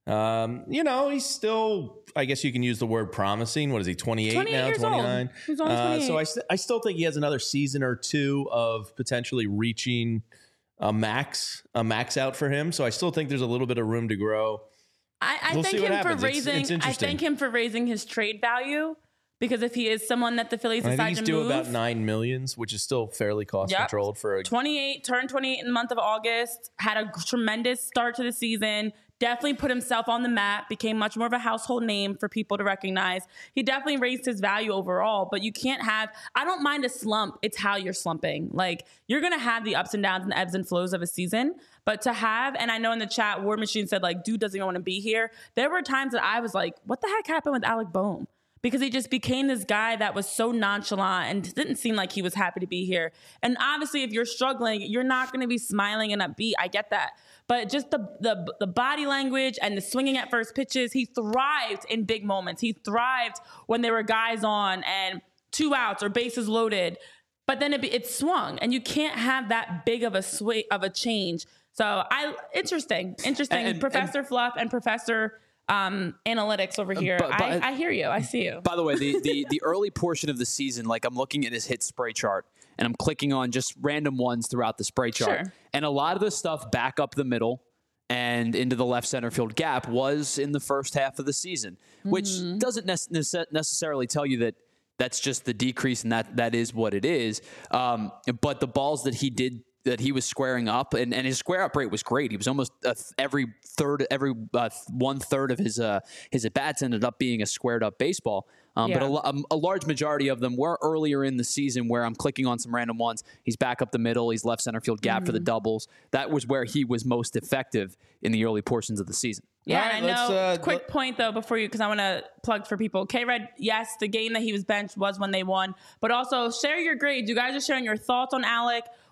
um, you know, he's still, I guess you can use the word promising. What is he, twenty-eight now, twenty-nine? He's only twenty-eight. Uh, so I, st- I still think he has another season or two of potentially reaching a max, a max out for him. So I still think there's a little bit of room to grow. I, I we'll thank him happens. for raising. It's, it's I thank him for raising his trade value. Because if he is someone that the Phillies decide to move, I think he's due about nine millions, which is still fairly cost yep. controlled for a twenty-eight. Turned twenty-eight in the month of August. Had a tremendous start to the season. Definitely put himself on the map. Became much more of a household name for people to recognize. He definitely raised his value overall. But you can't have. I don't mind a slump. It's how you're slumping. Like you're gonna have the ups and downs and the ebbs and flows of a season. But to have, and I know in the chat, War Machine said like, dude doesn't even want to be here. There were times that I was like, what the heck happened with Alec Bohm? Because he just became this guy that was so nonchalant and didn't seem like he was happy to be here. And obviously, if you're struggling, you're not going to be smiling and upbeat. I get that. But just the, the the body language and the swinging at first pitches, he thrived in big moments. He thrived when there were guys on and two outs or bases loaded. But then it, it swung, and you can't have that big of a sw- of a change. So I interesting, interesting. And, Professor and, Fluff and Professor Um, analytics over here. But, but, I, I hear you. I see you. By the way, the, the the early portion of the season, like I'm looking at his hit spray chart and I'm clicking on just random ones throughout the spray chart. Sure. And a lot of the stuff back up the middle and into the left center field gap was in the first half of the season, mm-hmm. which doesn't ne- necessarily tell you that that's just the decrease and that that is what it is. Um, but the balls that he did that he was squaring up, and, and his square up rate was great. He was almost uh, every third, every uh, one third of his uh, his at bats ended up being a squared up baseball. Um, yeah. But a, a, a large majority of them were earlier in the season, where I'm clicking on some random ones. He's back up the middle. He's left center field gap mm-hmm. for the doubles. That was where he was most effective in the early portions of the season. Yeah, right, I know. uh, Quick point, though, before you, because I want to plug for people. K-Red, yes, the game that he was benched was when they won. But also, share your grades. You guys are sharing your thoughts on Alec.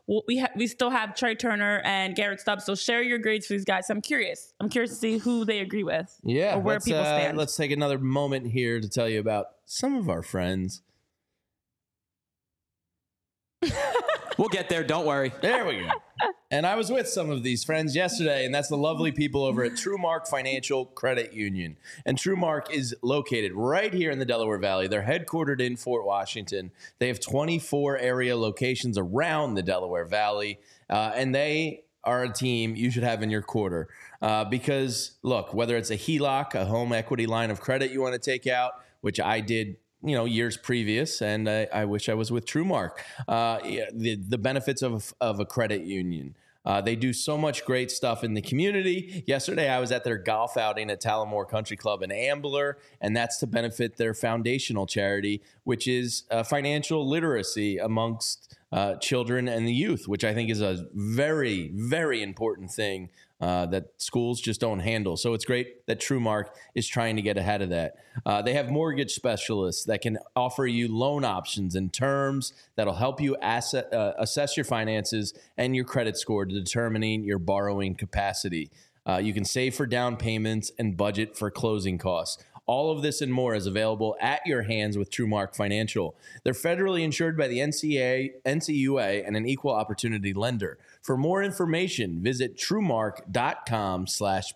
we'll, we ha- we still have Trey Turner and Garrett Stubbs. So share your grades for these guys. I'm curious. I'm curious to see who they agree with. Yeah, or where let's, people uh, stand. Let's take another moment here to tell you about some of our friends. We'll get there. Don't worry. There we go. And I was with some of these friends yesterday, and that's the lovely people over at TrueMark Financial Credit Union. And TrueMark is located right here in the Delaware Valley. They're headquartered in Fort Washington. They have twenty-four area locations around the Delaware Valley, uh, and they are a team you should have in your quarter. Uh, because, look, whether it's a H E L O C, a home equity line of credit you want to take out, which I did you know, years previous, and I, I wish I was with TrueMark. Uh, the the benefits of of a credit union. Uh, they do so much great stuff in the community. Yesterday, I was at their golf outing at Tallamore Country Club in Ambler, and that's to benefit their foundational charity, which is uh, financial literacy amongst uh, children and the youth, which I think is a very, very important thing uh, that schools just don't handle. So it's great that TrueMark is trying to get ahead of that. Uh, they have mortgage specialists that can offer you loan options and terms that'll help you asset, uh, assess your finances and your credit score to determining your borrowing capacity. Uh, you can save for down payments and budget for closing costs. All of this and more is available at your hands with TrueMark Financial. They're federally insured by the N C A A, N C U A, and an equal opportunity lender. For more information, visit truemark.com slash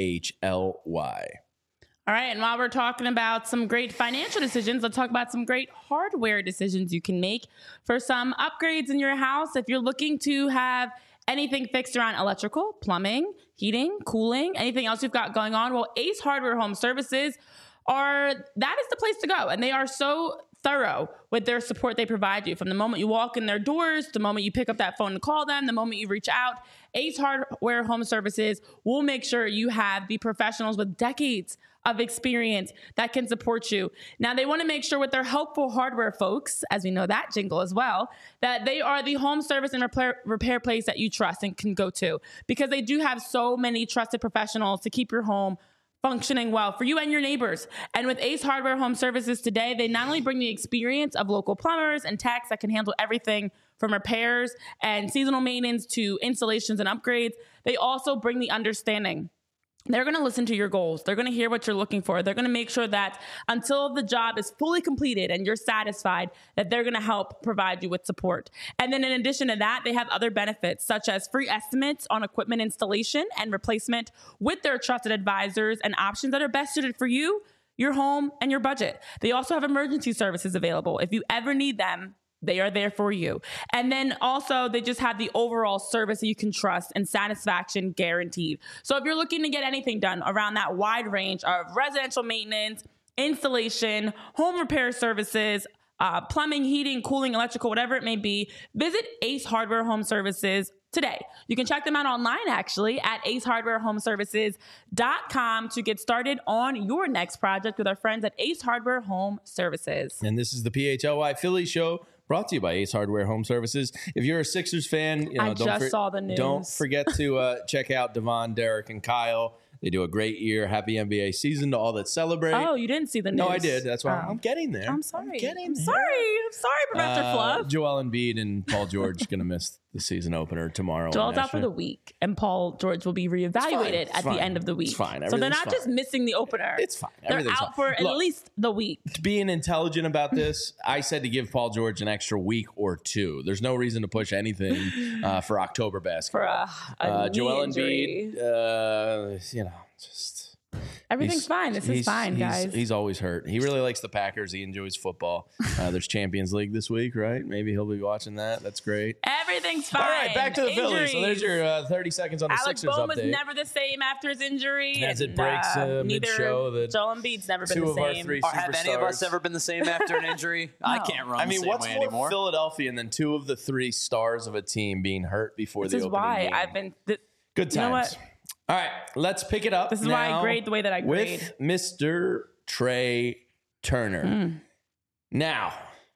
P-H-L-Y. All right, and while we're talking about some great financial decisions, let's talk about some great hardware decisions you can make for some upgrades in your house. If you're looking to have anything fixed around electrical, plumbing, heating, cooling, anything else you've got going on, well, Ace Hardware Home Services are, that is the place to go. And they are so thorough with their support they provide you. From the moment you walk in their doors, the moment you pick up that phone to call them, the moment you reach out, Ace Hardware Home Services will make sure you have the professionals with decades of experience that can support you. Now, they want to make sure with their helpful hardware folks, as we know that jingle as well, that they are the home service and repair, repair place that you trust and can go to, because they do have so many trusted professionals to keep your home functioning well for you and your neighbors. And with Ace Hardware Home Services today, they not only bring the experience of local plumbers and techs that can handle everything from repairs and seasonal maintenance to installations and upgrades, they also bring the understanding. They're going to listen to your goals. They're going to hear what you're looking for. They're going to make sure that until the job is fully completed and you're satisfied, that they're going to help provide you with support. And then in addition to that, they have other benefits such as free estimates on equipment installation and replacement with their trusted advisors and options that are best suited for you, your home, and your budget. They also have emergency services available. If you ever need them, they are there for you. And then also they just have the overall service that you can trust and satisfaction guaranteed. So if you're looking to get anything done around that wide range of residential maintenance, installation, home repair services, uh, plumbing, heating, cooling, electrical, whatever it may be, visit Ace Hardware Home Services today. You can check them out online, actually, at ace hardware home services dot com to get started on your next project with our friends at Ace Hardware Home Services. And this is the P H L Y Philly Show, brought to you by Ace Hardware Home Services. If you're a Sixers fan, you know, I don't just for- saw the news. Don't forget to uh, check out Devon, Derek, and Kyle. They do a great year. Happy N B A season to all that celebrate. Oh, you didn't see the news? No, I did. That's why oh. I'm getting there. I'm sorry. I'm getting I'm there. sorry. I'm sorry, Professor Uh, Fluff. Joel Embiid and Paul George going to miss the season opener tomorrow. Joel's out for the week, and Paul George will be reevaluated It's at fine. the end of the week. It's fine. So they're Everything's not fine. just missing the opener. It's fine. They're Everything's out fine. for Look, at least the week. being intelligent about this, I said to give Paul George an extra week or two. There's no reason to push anything uh, for October basketball. For a, a uh, knee Joel injury. Embiid, uh, you know, just Everything's he's- fine. This is he's- fine, he's- guys. He's always hurt. He really likes the Packers. He enjoys football. Uh, there's Champions League this week, right? Maybe he'll be watching that. That's great. Everything's fine. All right, back to the Phillies. So there's Injuries. your uh, thirty seconds on the Alex Sixers Bohm was update. never the same after his injury. As it and, breaks, uh, neither mid-show that Joel Embiid's never been two the of our same. three Or have any of us superstars. ever been the same after an injury? I No. can't run I the mean, same what's way more anymore. Philadelphia than two of the three stars of a team being hurt before This the is opening why game? I've been. Th- Good You know times. what? All right, let's pick it up. This is why I now grade the way that I grade. with Mister Trey Turner. Mm. Now,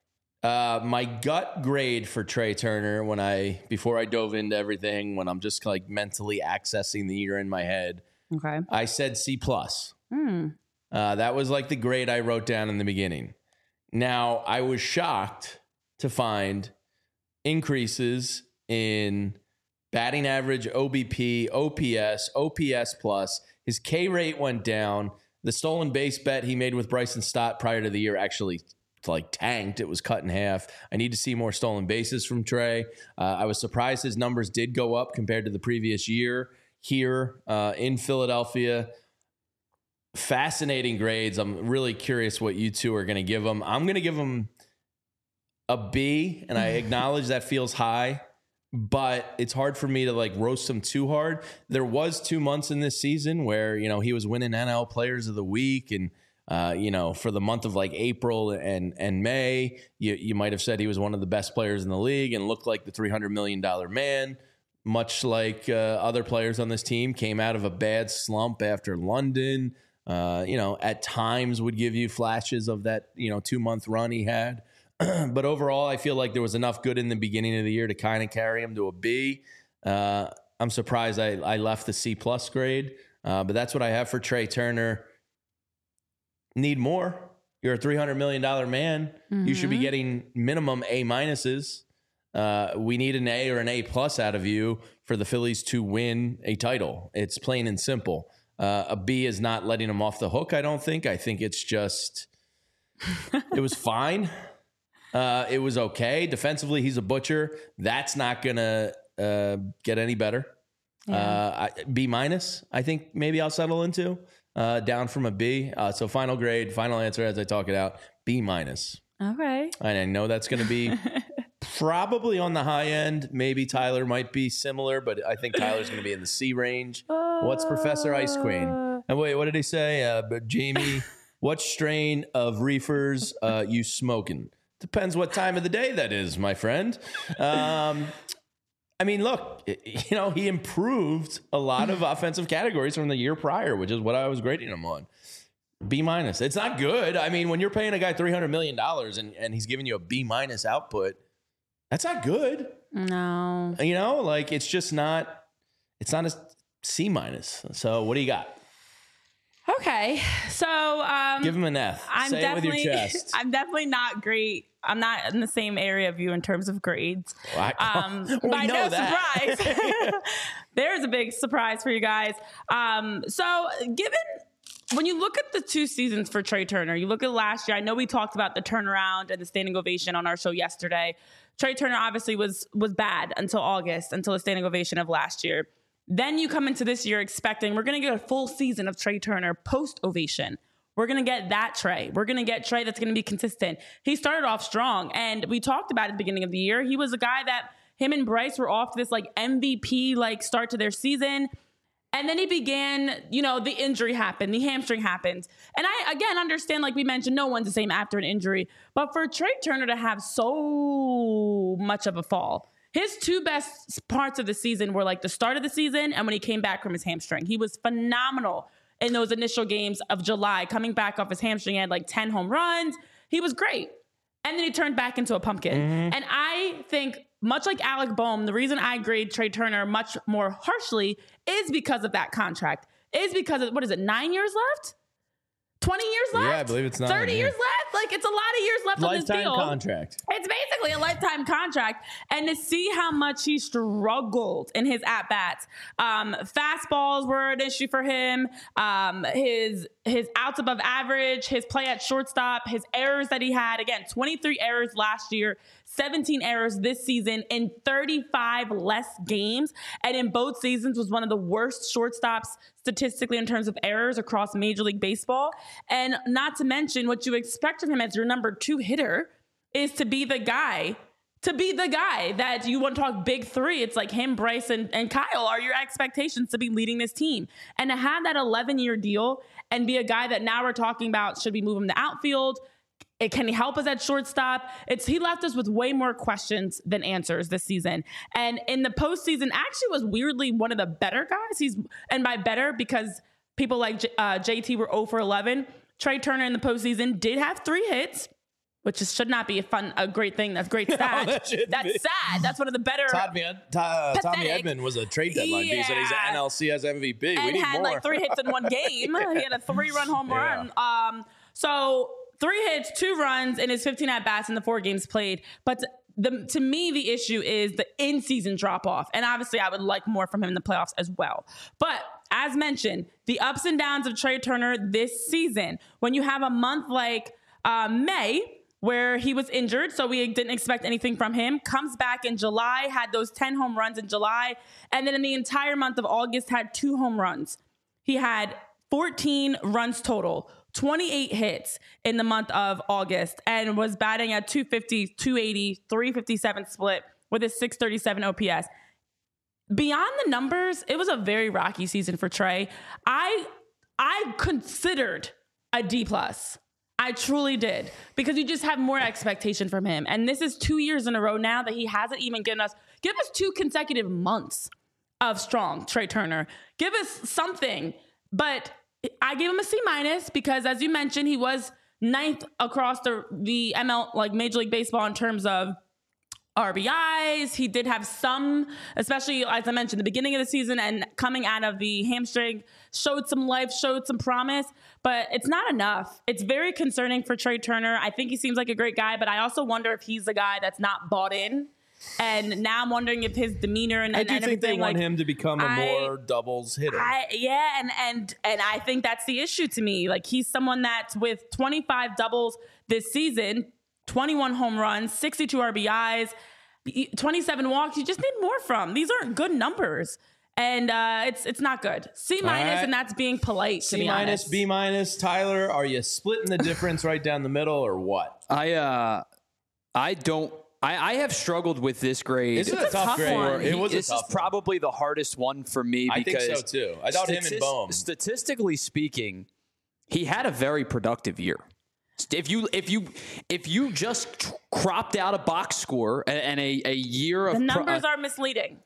uh, my gut grade for Trey Turner when I before I dove into everything, when I'm just like mentally accessing the year in my head, Okay. I said C plus. Mm. Uh, that was like the grade I wrote down in the beginning. Now, I was shocked to find increases in batting average, O B P, O P S, O P S plus. His K rate went down. The stolen base bet he made with Bryson Stott prior to the year actually like tanked. It was cut in half. I need to see more stolen bases from Trey. Uh, I was surprised his numbers did go up compared to the previous year here uh, in Philadelphia. Fascinating grades. I'm really curious what you two are going to give him. I'm going to give him a B, and I acknowledge that feels high, but it's hard for me to like roast him too hard. There was two months in this season where, you know, he was winning N L Players of the Week, and Uh, you know, for the month of like April and and May, you you might have said he was one of the best players in the league and looked like the three hundred million dollars man, much like uh, other players on this team. Came out of a bad slump after London. Uh, you know, at times would give you flashes of that, you know, two month run he had. But overall, I feel like there was enough good in the beginning of the year to kind of carry him to a B. Uh, I'm surprised I, I left the C plus grade, uh, but that's what I have for Trey Turner. Need more. You're a three hundred million dollars man. Mm-hmm. You should be getting minimum A minuses. Uh, we need an A or an A plus out of you for the Phillies to win a title. It's plain and simple. Uh, a B is not letting him off the hook, I don't think. I think it's just, it was fine. Uh, it was okay. Defensively, he's a butcher. That's not going to uh, get any better. Yeah. Uh, I, B minus, I think maybe I'll settle into. Uh, down from a B. Uh, so final grade, final answer as I talk it out, B minus. Okay. And I know that's going to be probably on the high end. Maybe Tyler might be similar, but I think Tyler's going to be in the C range. Uh, What's Professor Ice Queen? And wait, what did he say? Uh, but Jamie, what strain of reefers uh, you smoking? Depends what time of the day that is, my friend. Um, I mean, look, you know, he improved a lot of offensive categories from the year prior, which is what I was grading him on. B minus. It's not good. I mean, when you're paying a guy three hundred million dollars and, and he's giving you a B minus output, that's not good. No. You know, like it's just not, it's not a C minus. So what do you got? Okay. So um, give him an F. I'm Say it with your chest. I'm definitely not great. I'm not in the same area of you in terms of grades. Well, I, um, we by know no that. surprise, there's a big surprise for you guys. Um, so given when you look at the two seasons for Trey Turner, you look at last year. I know we talked about the turnaround and the standing ovation on our show yesterday. Trey Turner obviously was was bad until August, until the standing ovation of last year. Then you come into this year expecting we're going to get a full season of Trey Turner post ovation. We're going to get that Trey. We're going to get Trey that's going to be consistent. He started off strong, and we talked about at the beginning of the year. He was a guy that him and Bryce were off this like M V P like start to their season. And then he began, you know, the injury happened, the hamstring happened. And I, again, understand, like we mentioned, no one's the same after an injury. But for Trey Turner to have so much of a fall, his two best parts of the season were like the start of the season and when he came back from his hamstring. He was phenomenal in those initial games of July, coming back off his hamstring. He had like ten home runs. He was great. And then he turned back into a pumpkin. Mm-hmm. And I think, much like Alec Bohm, the reason I grade Trey Turner much more harshly is because of that contract. Is because of, what is it, nine years left? twenty years left? Yeah, I believe it's nine. thirty yeah. years left? Like, it's a lot of years left lifetime on this deal. Lifetime contract. It's basically a lifetime contract. And to see how much he struggled in his at-bats. Um, fastballs were an issue for him. Um, his his outs above average, his play at shortstop, his errors that he had. Again, twenty-three errors last year, seventeen errors this season in thirty-five less games. And in both seasons was one of the worst shortstops statistically in terms of errors across Major League Baseball. And not to mention what you expect of him as your number two hitter is to be the guy, to be the guy that you want to talk big three. It's like him, Bryce, and, and Kyle are your expectations to be leading this team. And to have that eleven-year deal and be a guy that now we're talking about, should we move him to outfield? It, can he help us at shortstop? It's he left us with way more questions than answers this season. And in the postseason, actually was weirdly one of the better guys. He's and by better because people like J, uh, J T were zero for eleven. Trey Turner in the postseason did have three hits, which is, should not be a fun, a great thing. That's great stat. No, that That's be. sad. That's one of the better. Tommy, uh, Tommy Edman was a trade deadline yeah. piece, and he's an N L C S M V P. And we need had more. like three hits in one game. He had a three-run home yeah. run. Um, so three hits, two runs in his fifteen at bats in the four games played. But the to me, the issue is the in-season drop-off. And obviously, I would like more from him in the playoffs as well. But as mentioned, the ups and downs of Trey Turner this season, when you have a month like uh, May, where he was injured, so we didn't expect anything from him, comes back in July, had those ten home runs in July, and then in the entire month of August had two home runs. He had fourteen runs total, twenty-eight hits in the month of August, and was batting at two fifty, two eighty, three fifty-seven split with a six thirty-seven O P S. Beyond the numbers, it was a very rocky season for Trey. I I considered a D plus. I truly did, because you just have more expectation from him. And this is two years in a row now that he hasn't even given us, give us two consecutive months of strong Trey Turner. Give us something. But I gave him a C minus because, as you mentioned, he was ninth across the, the M L, like Major League Baseball, in terms of R B Is. He did have some, especially as I mentioned, the beginning of the season and coming out of the hamstring, showed some life, showed some promise, but it's not enough. It's very concerning for Trey Turner. I think he seems like a great guy, but I also wonder if he's the guy that's not bought in. And now I'm wondering if his demeanor and, I and, do and think everything, they want like, him to become a I, more doubles hitter. I, yeah, and and and I think that's the issue to me. Like, he's someone that's with twenty-five doubles this season, twenty-one home runs, sixty-two R B Is, twenty-seven walks. You just need more from. These aren't good numbers. And uh, it's it's not good. C minus, right. And that's being polite, to C be minus, honest. B minus. Tyler, are you splitting the difference right down the middle, or what? I uh, I don't. I, I have struggled with this grade. It's, it's a, a tough, tough grade. One. It was this a tough is probably the hardest one for me. I because think so too. I thought statist- him and Bohm. Statistically speaking, he had a very productive year. If you if you if you just cropped out a box score and, and a, a year of the numbers pro- are misleading.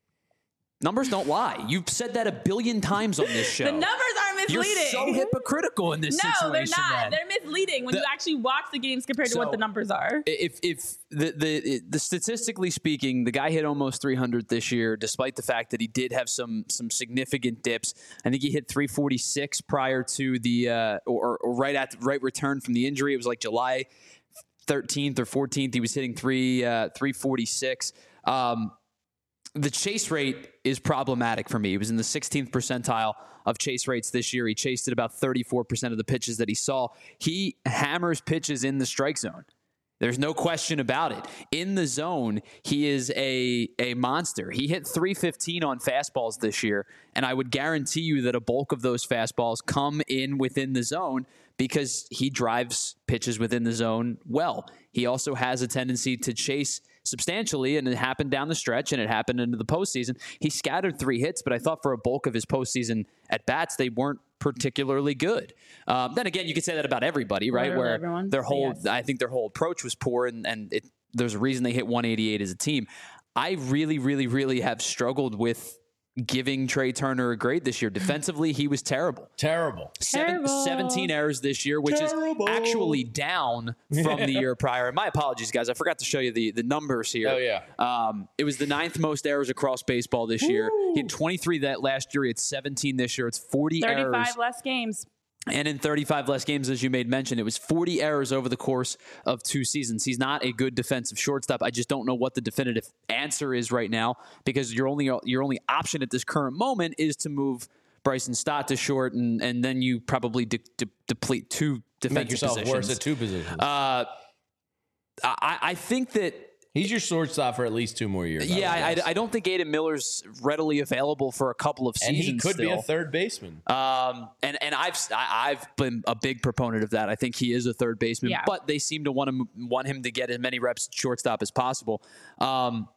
Numbers don't lie. You've said that a billion times on this show. The numbers are misleading. You're so hypocritical in this no, situation. No, they're not. Then. They're misleading when the, you actually watch the games compared so to what the numbers are. If if the, the the statistically speaking, the guy hit almost three hundred this year, despite the fact that he did have some some significant dips. I think he hit three forty-six prior to the uh, or, or right at the right return from the injury. It was like July thirteenth or fourteenth. He was hitting three uh, three forty-six. Um, The chase rate is problematic for me. He was in the sixteenth percentile of chase rates this year. He chased at about thirty-four percent of the pitches that he saw. He hammers pitches in the strike zone. There's no question about it. In the zone, he is a, a monster. He hit three fifteen on fastballs this year, and I would guarantee you that a bulk of those fastballs come in within the zone because he drives pitches within the zone well. He also has a tendency to chase substantially, and it happened down the stretch, and it happened into the postseason. He scattered three hits, but I thought for a bulk of his postseason at bats, they weren't particularly good. Um, then again, you could say that about everybody, right? Literally Where everyone. their whole, yes. I think their whole approach was poor, and, and it, there's a reason they hit one eighty-eight as a team. I really, really, really have struggled with giving Trey Turner a grade this year. Defensively, he was terrible. Terrible. Seven, Terrible. seventeen errors this year, which Terrible. is actually down from the year prior. My apologies, guys. I forgot to show you the, the numbers here. Oh, yeah. Um, it was the ninth most errors across baseball this Woo. year. He had twenty-three that last year. He had seventeen this year. It's forty thirty-five errors. less games. And in thirty-five less games, as you made mention, it was forty errors over the course of two seasons. He's not a good defensive shortstop. I just don't know what the definitive answer is right now, because your only your only option at this current moment is to move Bryson Stott to short, and, and then you probably de- de- deplete two defensive Make yourself positions. worse at two positions. Uh, I, I think that He's your shortstop for at least two more years. Yeah, I, I, I don't think Aiden Miller's readily available for a couple of and seasons. he could still. be a third baseman. Um, and and I've I- I've been a big proponent of that. I think he is a third baseman, Yeah. but they seem to want him want him to get as many reps at shortstop as possible. Um,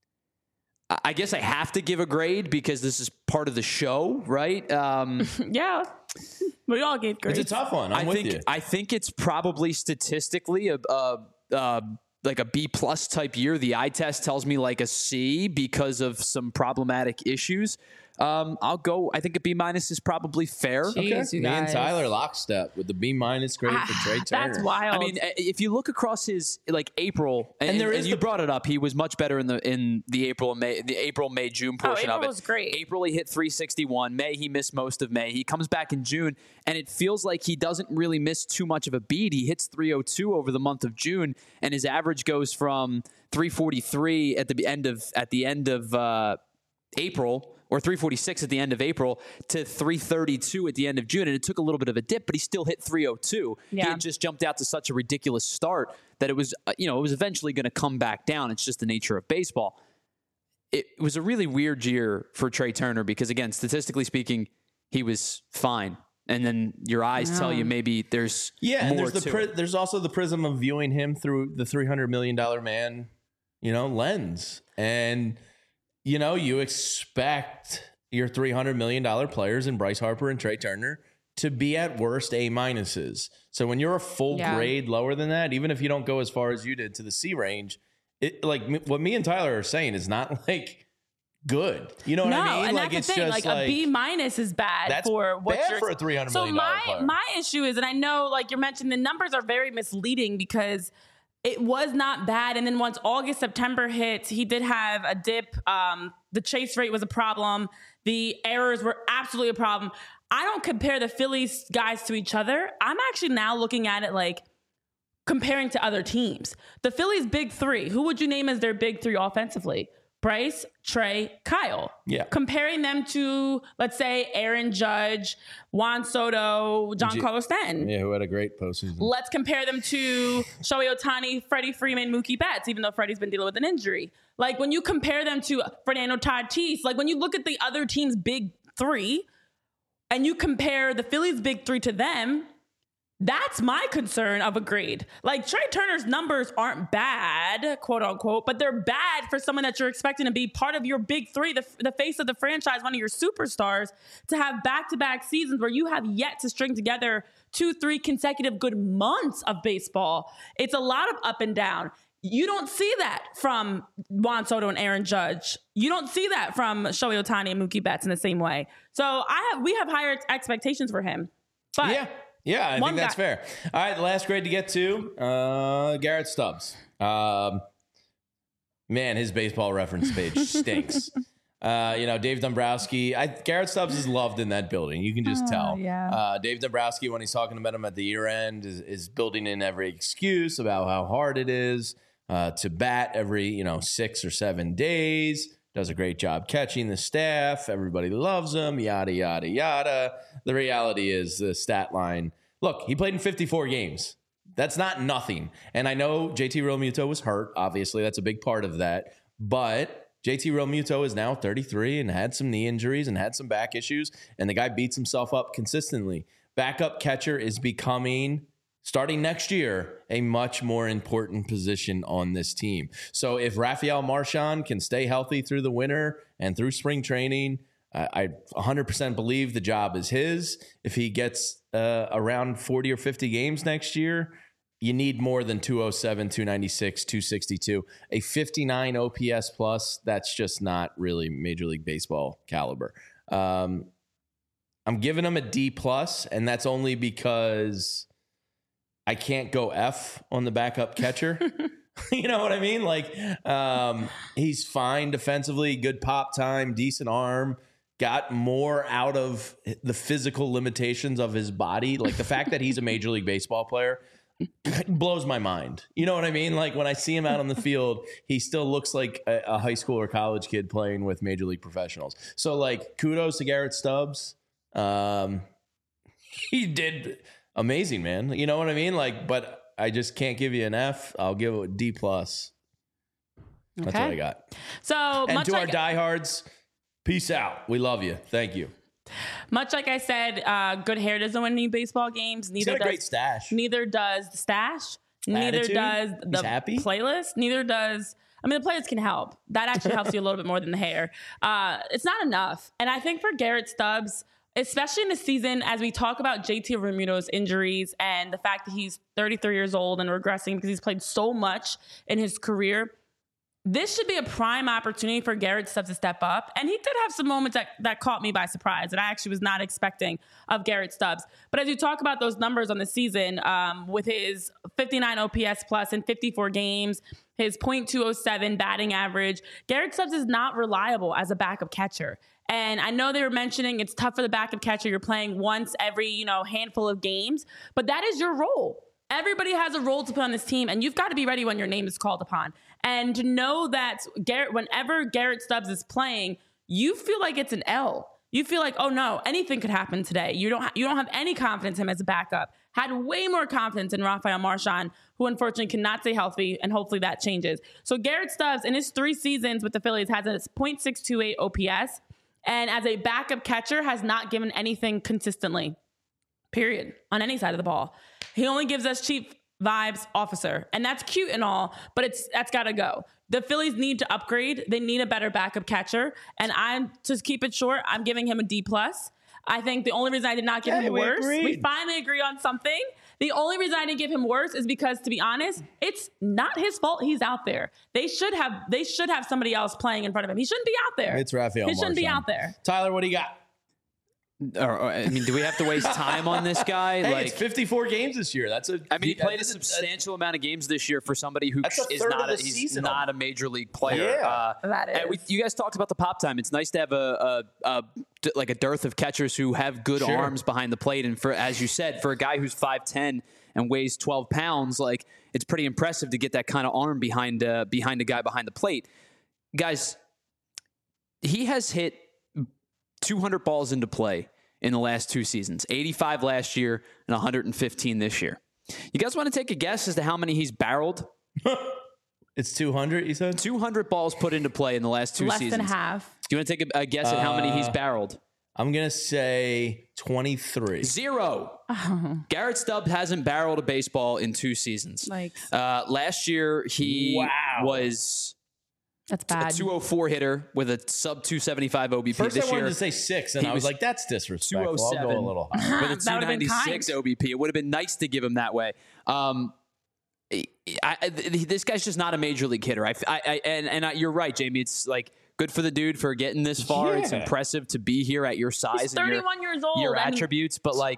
I I guess I have to give a grade because this is part of the show, right? Um, Yeah. We all gave grades. It's a tough one. I'm I with think you. I think it's probably statistically a, a, a like a B plus type year. The eye test tells me like a C because of some problematic issues. Um, I'll go. I think a B minus is probably fair. Jeez, Okay. you Me and guys. Tyler lockstep with the B minus grade for Trey Turner. That's wild. I mean, if you look across his like April, and, And there and is you the- brought it up, he was much better in the in the April and May, the April May June portion April of it. was great. April he hit three sixty-one. May he missed most of May. He comes back in June, and it feels like he doesn't really miss too much of a beat. He hits three oh two over the month of June, and his average goes from three forty-three at the end of at the end of uh, April. Or three forty-six at the end of April to three thirty-two at the end of June. And it took a little bit of a dip, but he still hit three oh two. He Yeah. had just jumped out to such a ridiculous start that it was, uh, you know, it was eventually going to come back down. It's just the nature of baseball. It, it was a really weird year for Trey Turner because, again, statistically speaking, he was fine. And then your eyes tell you maybe there's Yeah, more and there's the to pri- it. there's also the prism of viewing him through the three hundred million dollar man, you know, lens. And you know, you expect your three hundred million dollar players in Bryce Harper and Trey Turner to be at worst A minuses. So when you're a full Yeah. grade lower than that, even if you don't go as far as you did to the C range, it like m- what me and Tyler are saying is not like good. You know what no, I mean? and like that's the thing. Like, a B minus is bad that's for what bad you're for a three hundred So million dollar my player. my issue is, and I know, like you're mentioning, the numbers are very misleading because it was not bad. And then once August, September hit, he did have a dip. Um, the chase rate was a problem. The errors were absolutely a problem. I don't compare the Phillies guys to each other. I'm actually now looking at it like comparing to other teams. The Phillies' big three, who would you name as their big three offensively? Bryce, Trey, Kyle. Yeah. Comparing them to, let's say, Aaron Judge, Juan Soto, G- Giancarlo Stanton. yeah, who had a great postseason. Let's compare them to Shohei Ohtani, Freddie Freeman, Mookie Betts, even though Freddie's been dealing with an injury. Like when you compare them to Fernando Tatis, like when you look at the other team's big three and you compare the Phillies' big three to them, that's my concern of a grade. Like Trey Turner's numbers aren't bad, quote unquote, but they're bad for someone that you're expecting to be part of your big three, the, the face of the franchise, one of your superstars, to have back-to-back seasons where you have yet to string together two, three consecutive good months of baseball. It's a lot of up and down. You don't see that from Juan Soto and Aaron Judge. You don't see that from Shohei Ohtani and Mookie Betts in the same way. So I have we have higher expectations for him. But Yeah. Yeah, I One think that's guy- fair. All right, the last grade to get to, uh, Garrett Stubbs. Um, man, his baseball reference page stinks. Uh, you know, Dave Dombrowski. I, Garrett Stubbs is loved in that building. You can just Oh, tell. yeah. Uh, Dave Dombrowski, when he's talking about him at the year end, is, is building in every excuse about how hard it is uh, to bat every, you know, six or seven days. Does a great job catching the staff. Everybody loves him, yada, yada, yada. The reality is the stat line. Look, he played in fifty-four games. That's not nothing. And I know J T Realmuto was hurt. Obviously, that's a big part of that. But J T Realmuto is now thirty-three and had some knee injuries and had some back issues. And the guy beats himself up consistently. Backup catcher is becoming, starting next year, a much more important position on this team. So if Rafael Marchand can stay healthy through the winter and through spring training, I, I one hundred percent believe the job is his. If he gets uh, around forty or fifty games next year, you need more than two oh seven, two ninety-six, two sixty-two. A fifty-nine O P S plus, that's just not really Major League Baseball caliber. Um, I'm giving him a D plus, and that's only because I can't go F on the backup catcher. You know what I mean? Like, um, he's fine defensively, good pop time, decent arm, got more out of the physical limitations of his body. Like the fact that he's a Major League Baseball player blows my mind. You know what I mean? Like when I see him out on the field, he still looks like a, a high school or college kid playing with Major League professionals. So like kudos to Garrett Stubbs. Um, he did amazing, man. You know what I mean? Like, but I just can't give you an F. I'll give it a D plus. That's Okay. what I got. So And much to like our diehards, peace out. We love you. Thank you. much like I said, uh, good hair doesn't win any baseball games. He's Neither got a great does stash. neither does the stash. Neither Attitude? does He's the happy? playlist. Neither does. I mean, the players can help. That actually helps you a little bit more than the hair. Uh, it's not enough. And I think for Garrett Stubbs, especially in the season, as we talk about J T Realmuto's injuries and the fact that he's thirty-three years old and regressing because he's played so much in his career, this should be a prime opportunity for Garrett Stubbs to step up. And he did have some moments that, that caught me by surprise that I actually was not expecting of Garrett Stubbs. But as you talk about those numbers on the season, um, with his fifty-nine O P S plus in fifty-four games, his point two oh seven batting average, Garrett Stubbs is not reliable as a backup catcher. And I know they were mentioning it's tough for the backup catcher. You're playing once every, you know, handful of games, but that is your role. Everybody has a role to play on this team, and you've got to be ready when your name is called upon. And to know that Garrett, whenever Garrett Stubbs is playing, you feel like it's an L. You feel like, oh no, anything could happen today. You don't ha- you don't have any confidence in him as a backup. Had way more confidence in Rafael Marchand, who unfortunately cannot stay healthy, and hopefully that changes. So Garrett Stubbs, in his three seasons with the Phillies, has a point six two eight O P S, and as a backup catcher, has not given anything consistently. Period. On any side of the ball. He only gives us chief vibes officer. And that's cute and all, but it's that's got to go. The Phillies need to upgrade. They need a better backup catcher. And I'm, to keep it short, I'm giving him a D plus. I think the only reason I did not give Hey, him we worse, agreed. we finally agree on something. The only reason I didn't give him worse is because, to be honest, it's not his fault he's out there. They should have they should have somebody else playing in front of him. He shouldn't be out there. It's Rafael He shouldn't be Marchand. out there. Tyler, what do you got? Or, or, I mean, do we have to waste time on this guy? Hey, like, it's fifty-four games this year. That's a. I mean, he played a that's substantial amount of games this year for somebody who That's a is third not of a, the he's season not a major league player. Yeah. Uh, That and we, is. you guys talked about the pop time. It's nice to have a, a, a d- like a dearth of catchers who have good Sure. arms behind the plate. And for as you said, for a guy who's five ten and weighs twelve pounds, like it's pretty impressive to get that kind of arm behind uh, behind a guy behind the plate. Guys, he has hit two hundred balls into play in the last two seasons, eighty-five last year and one hundred fifteen this year. You guys want to take a guess as to how many he's barreled? It's two hundred, you said? two hundred balls put into play in the last two Less seasons. than half. Do you want to take a, a guess at how many he's Uh, barreled? I'm going to say twenty-three. Zero. Garrett Stubbs hasn't barreled a baseball in two seasons. Like, Uh, last year, he Wow. was that's a bad. two oh four hitter with a sub two seventy-five O B P. First, this I wanted year, to say six, and he I was, was like, that's disrespectful. I'll go a two oh seven. little higher. with a That two would've been ninety-six kind. O B P. It would have been nice to give him that way. Um, I, I, this guy's just not a major league hitter. I, I, I and and I, you're right, Jamie. It's like good for the dude for getting this far. It's Yeah. impressive to be here at your size He's and your, thirty-one years old. your and attributes, but like.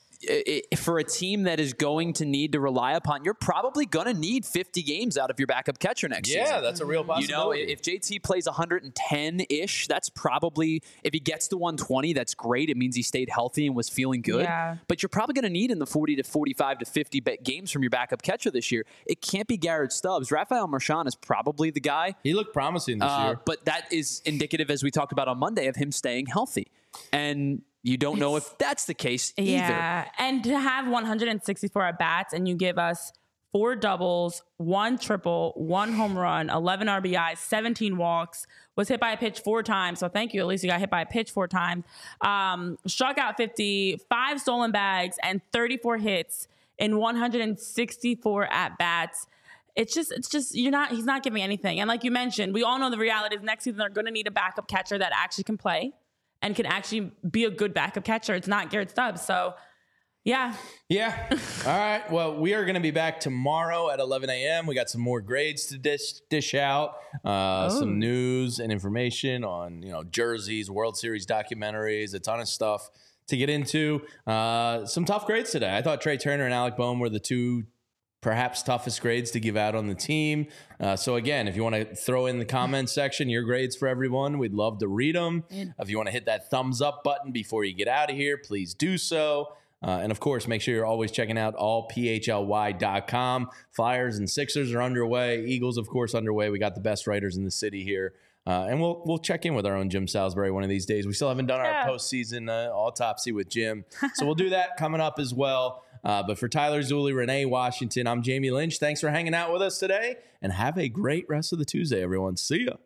I- I- for a team that is going to need to rely upon, you're probably going to need fifty games out of your backup catcher next season. Yeah, that's a real You know, possibility. if J T plays one hundred ten-ish, that's probably, if he gets to one twenty, that's great. It means he stayed healthy and was feeling good. Yeah. But you're probably going to need in the forty to forty-five to fifty ba- games from your backup catcher this year. It can't be Garrett Stubbs. Rafael Marchand is probably the guy. he looked promising this Uh, year. but that is indicative, as we talked about on Monday, of him staying healthy. And you don't know if that's the case either. Yeah, and to have one hundred sixty-four at bats and you give us four doubles, one triple, one home run, eleven R B Is, seventeen walks, was hit by a pitch four times. So thank you. At least you got hit by a pitch four times. Um, struck out fifty, five stolen bags, and thirty-four hits in one hundred sixty-four at bats. It's just, it's just, you're not, he's not giving anything. And like you mentioned, we all know the reality is next season they're going to need a backup catcher that actually can play and can actually be a good backup catcher. It's not Garrett Stubbs. So, yeah. Yeah. All right. Well, we are going to be back tomorrow at eleven a.m. We got some more grades to dish dish out, uh, Oh. some news and information on, you know, jerseys, World Series documentaries, a ton of stuff to get into. Uh, some tough grades today. I thought Trey Turner and Alec Boehm were the two perhaps toughest grades to give out on the team. Uh, so again, if you want to throw in the comments section your grades for everyone, we'd love to read them. If you want to hit that thumbs up button before you get out of here, please do so. Uh, and of course, make sure you're always checking out all P H L Y dot com. Flyers and Sixers are underway. Eagles, of course, underway. We got the best writers in the city here. Uh, and we'll we'll check in with our own Jim Salisbury one of these days. We still haven't done Yeah. our postseason uh, autopsy with Jim. So we'll do that coming up as well. Uh, but for Tyler Zulli, Renee Washington, I'm Jamie Lynch. Thanks for hanging out with us today. And have a great rest of the Tuesday, everyone. See ya.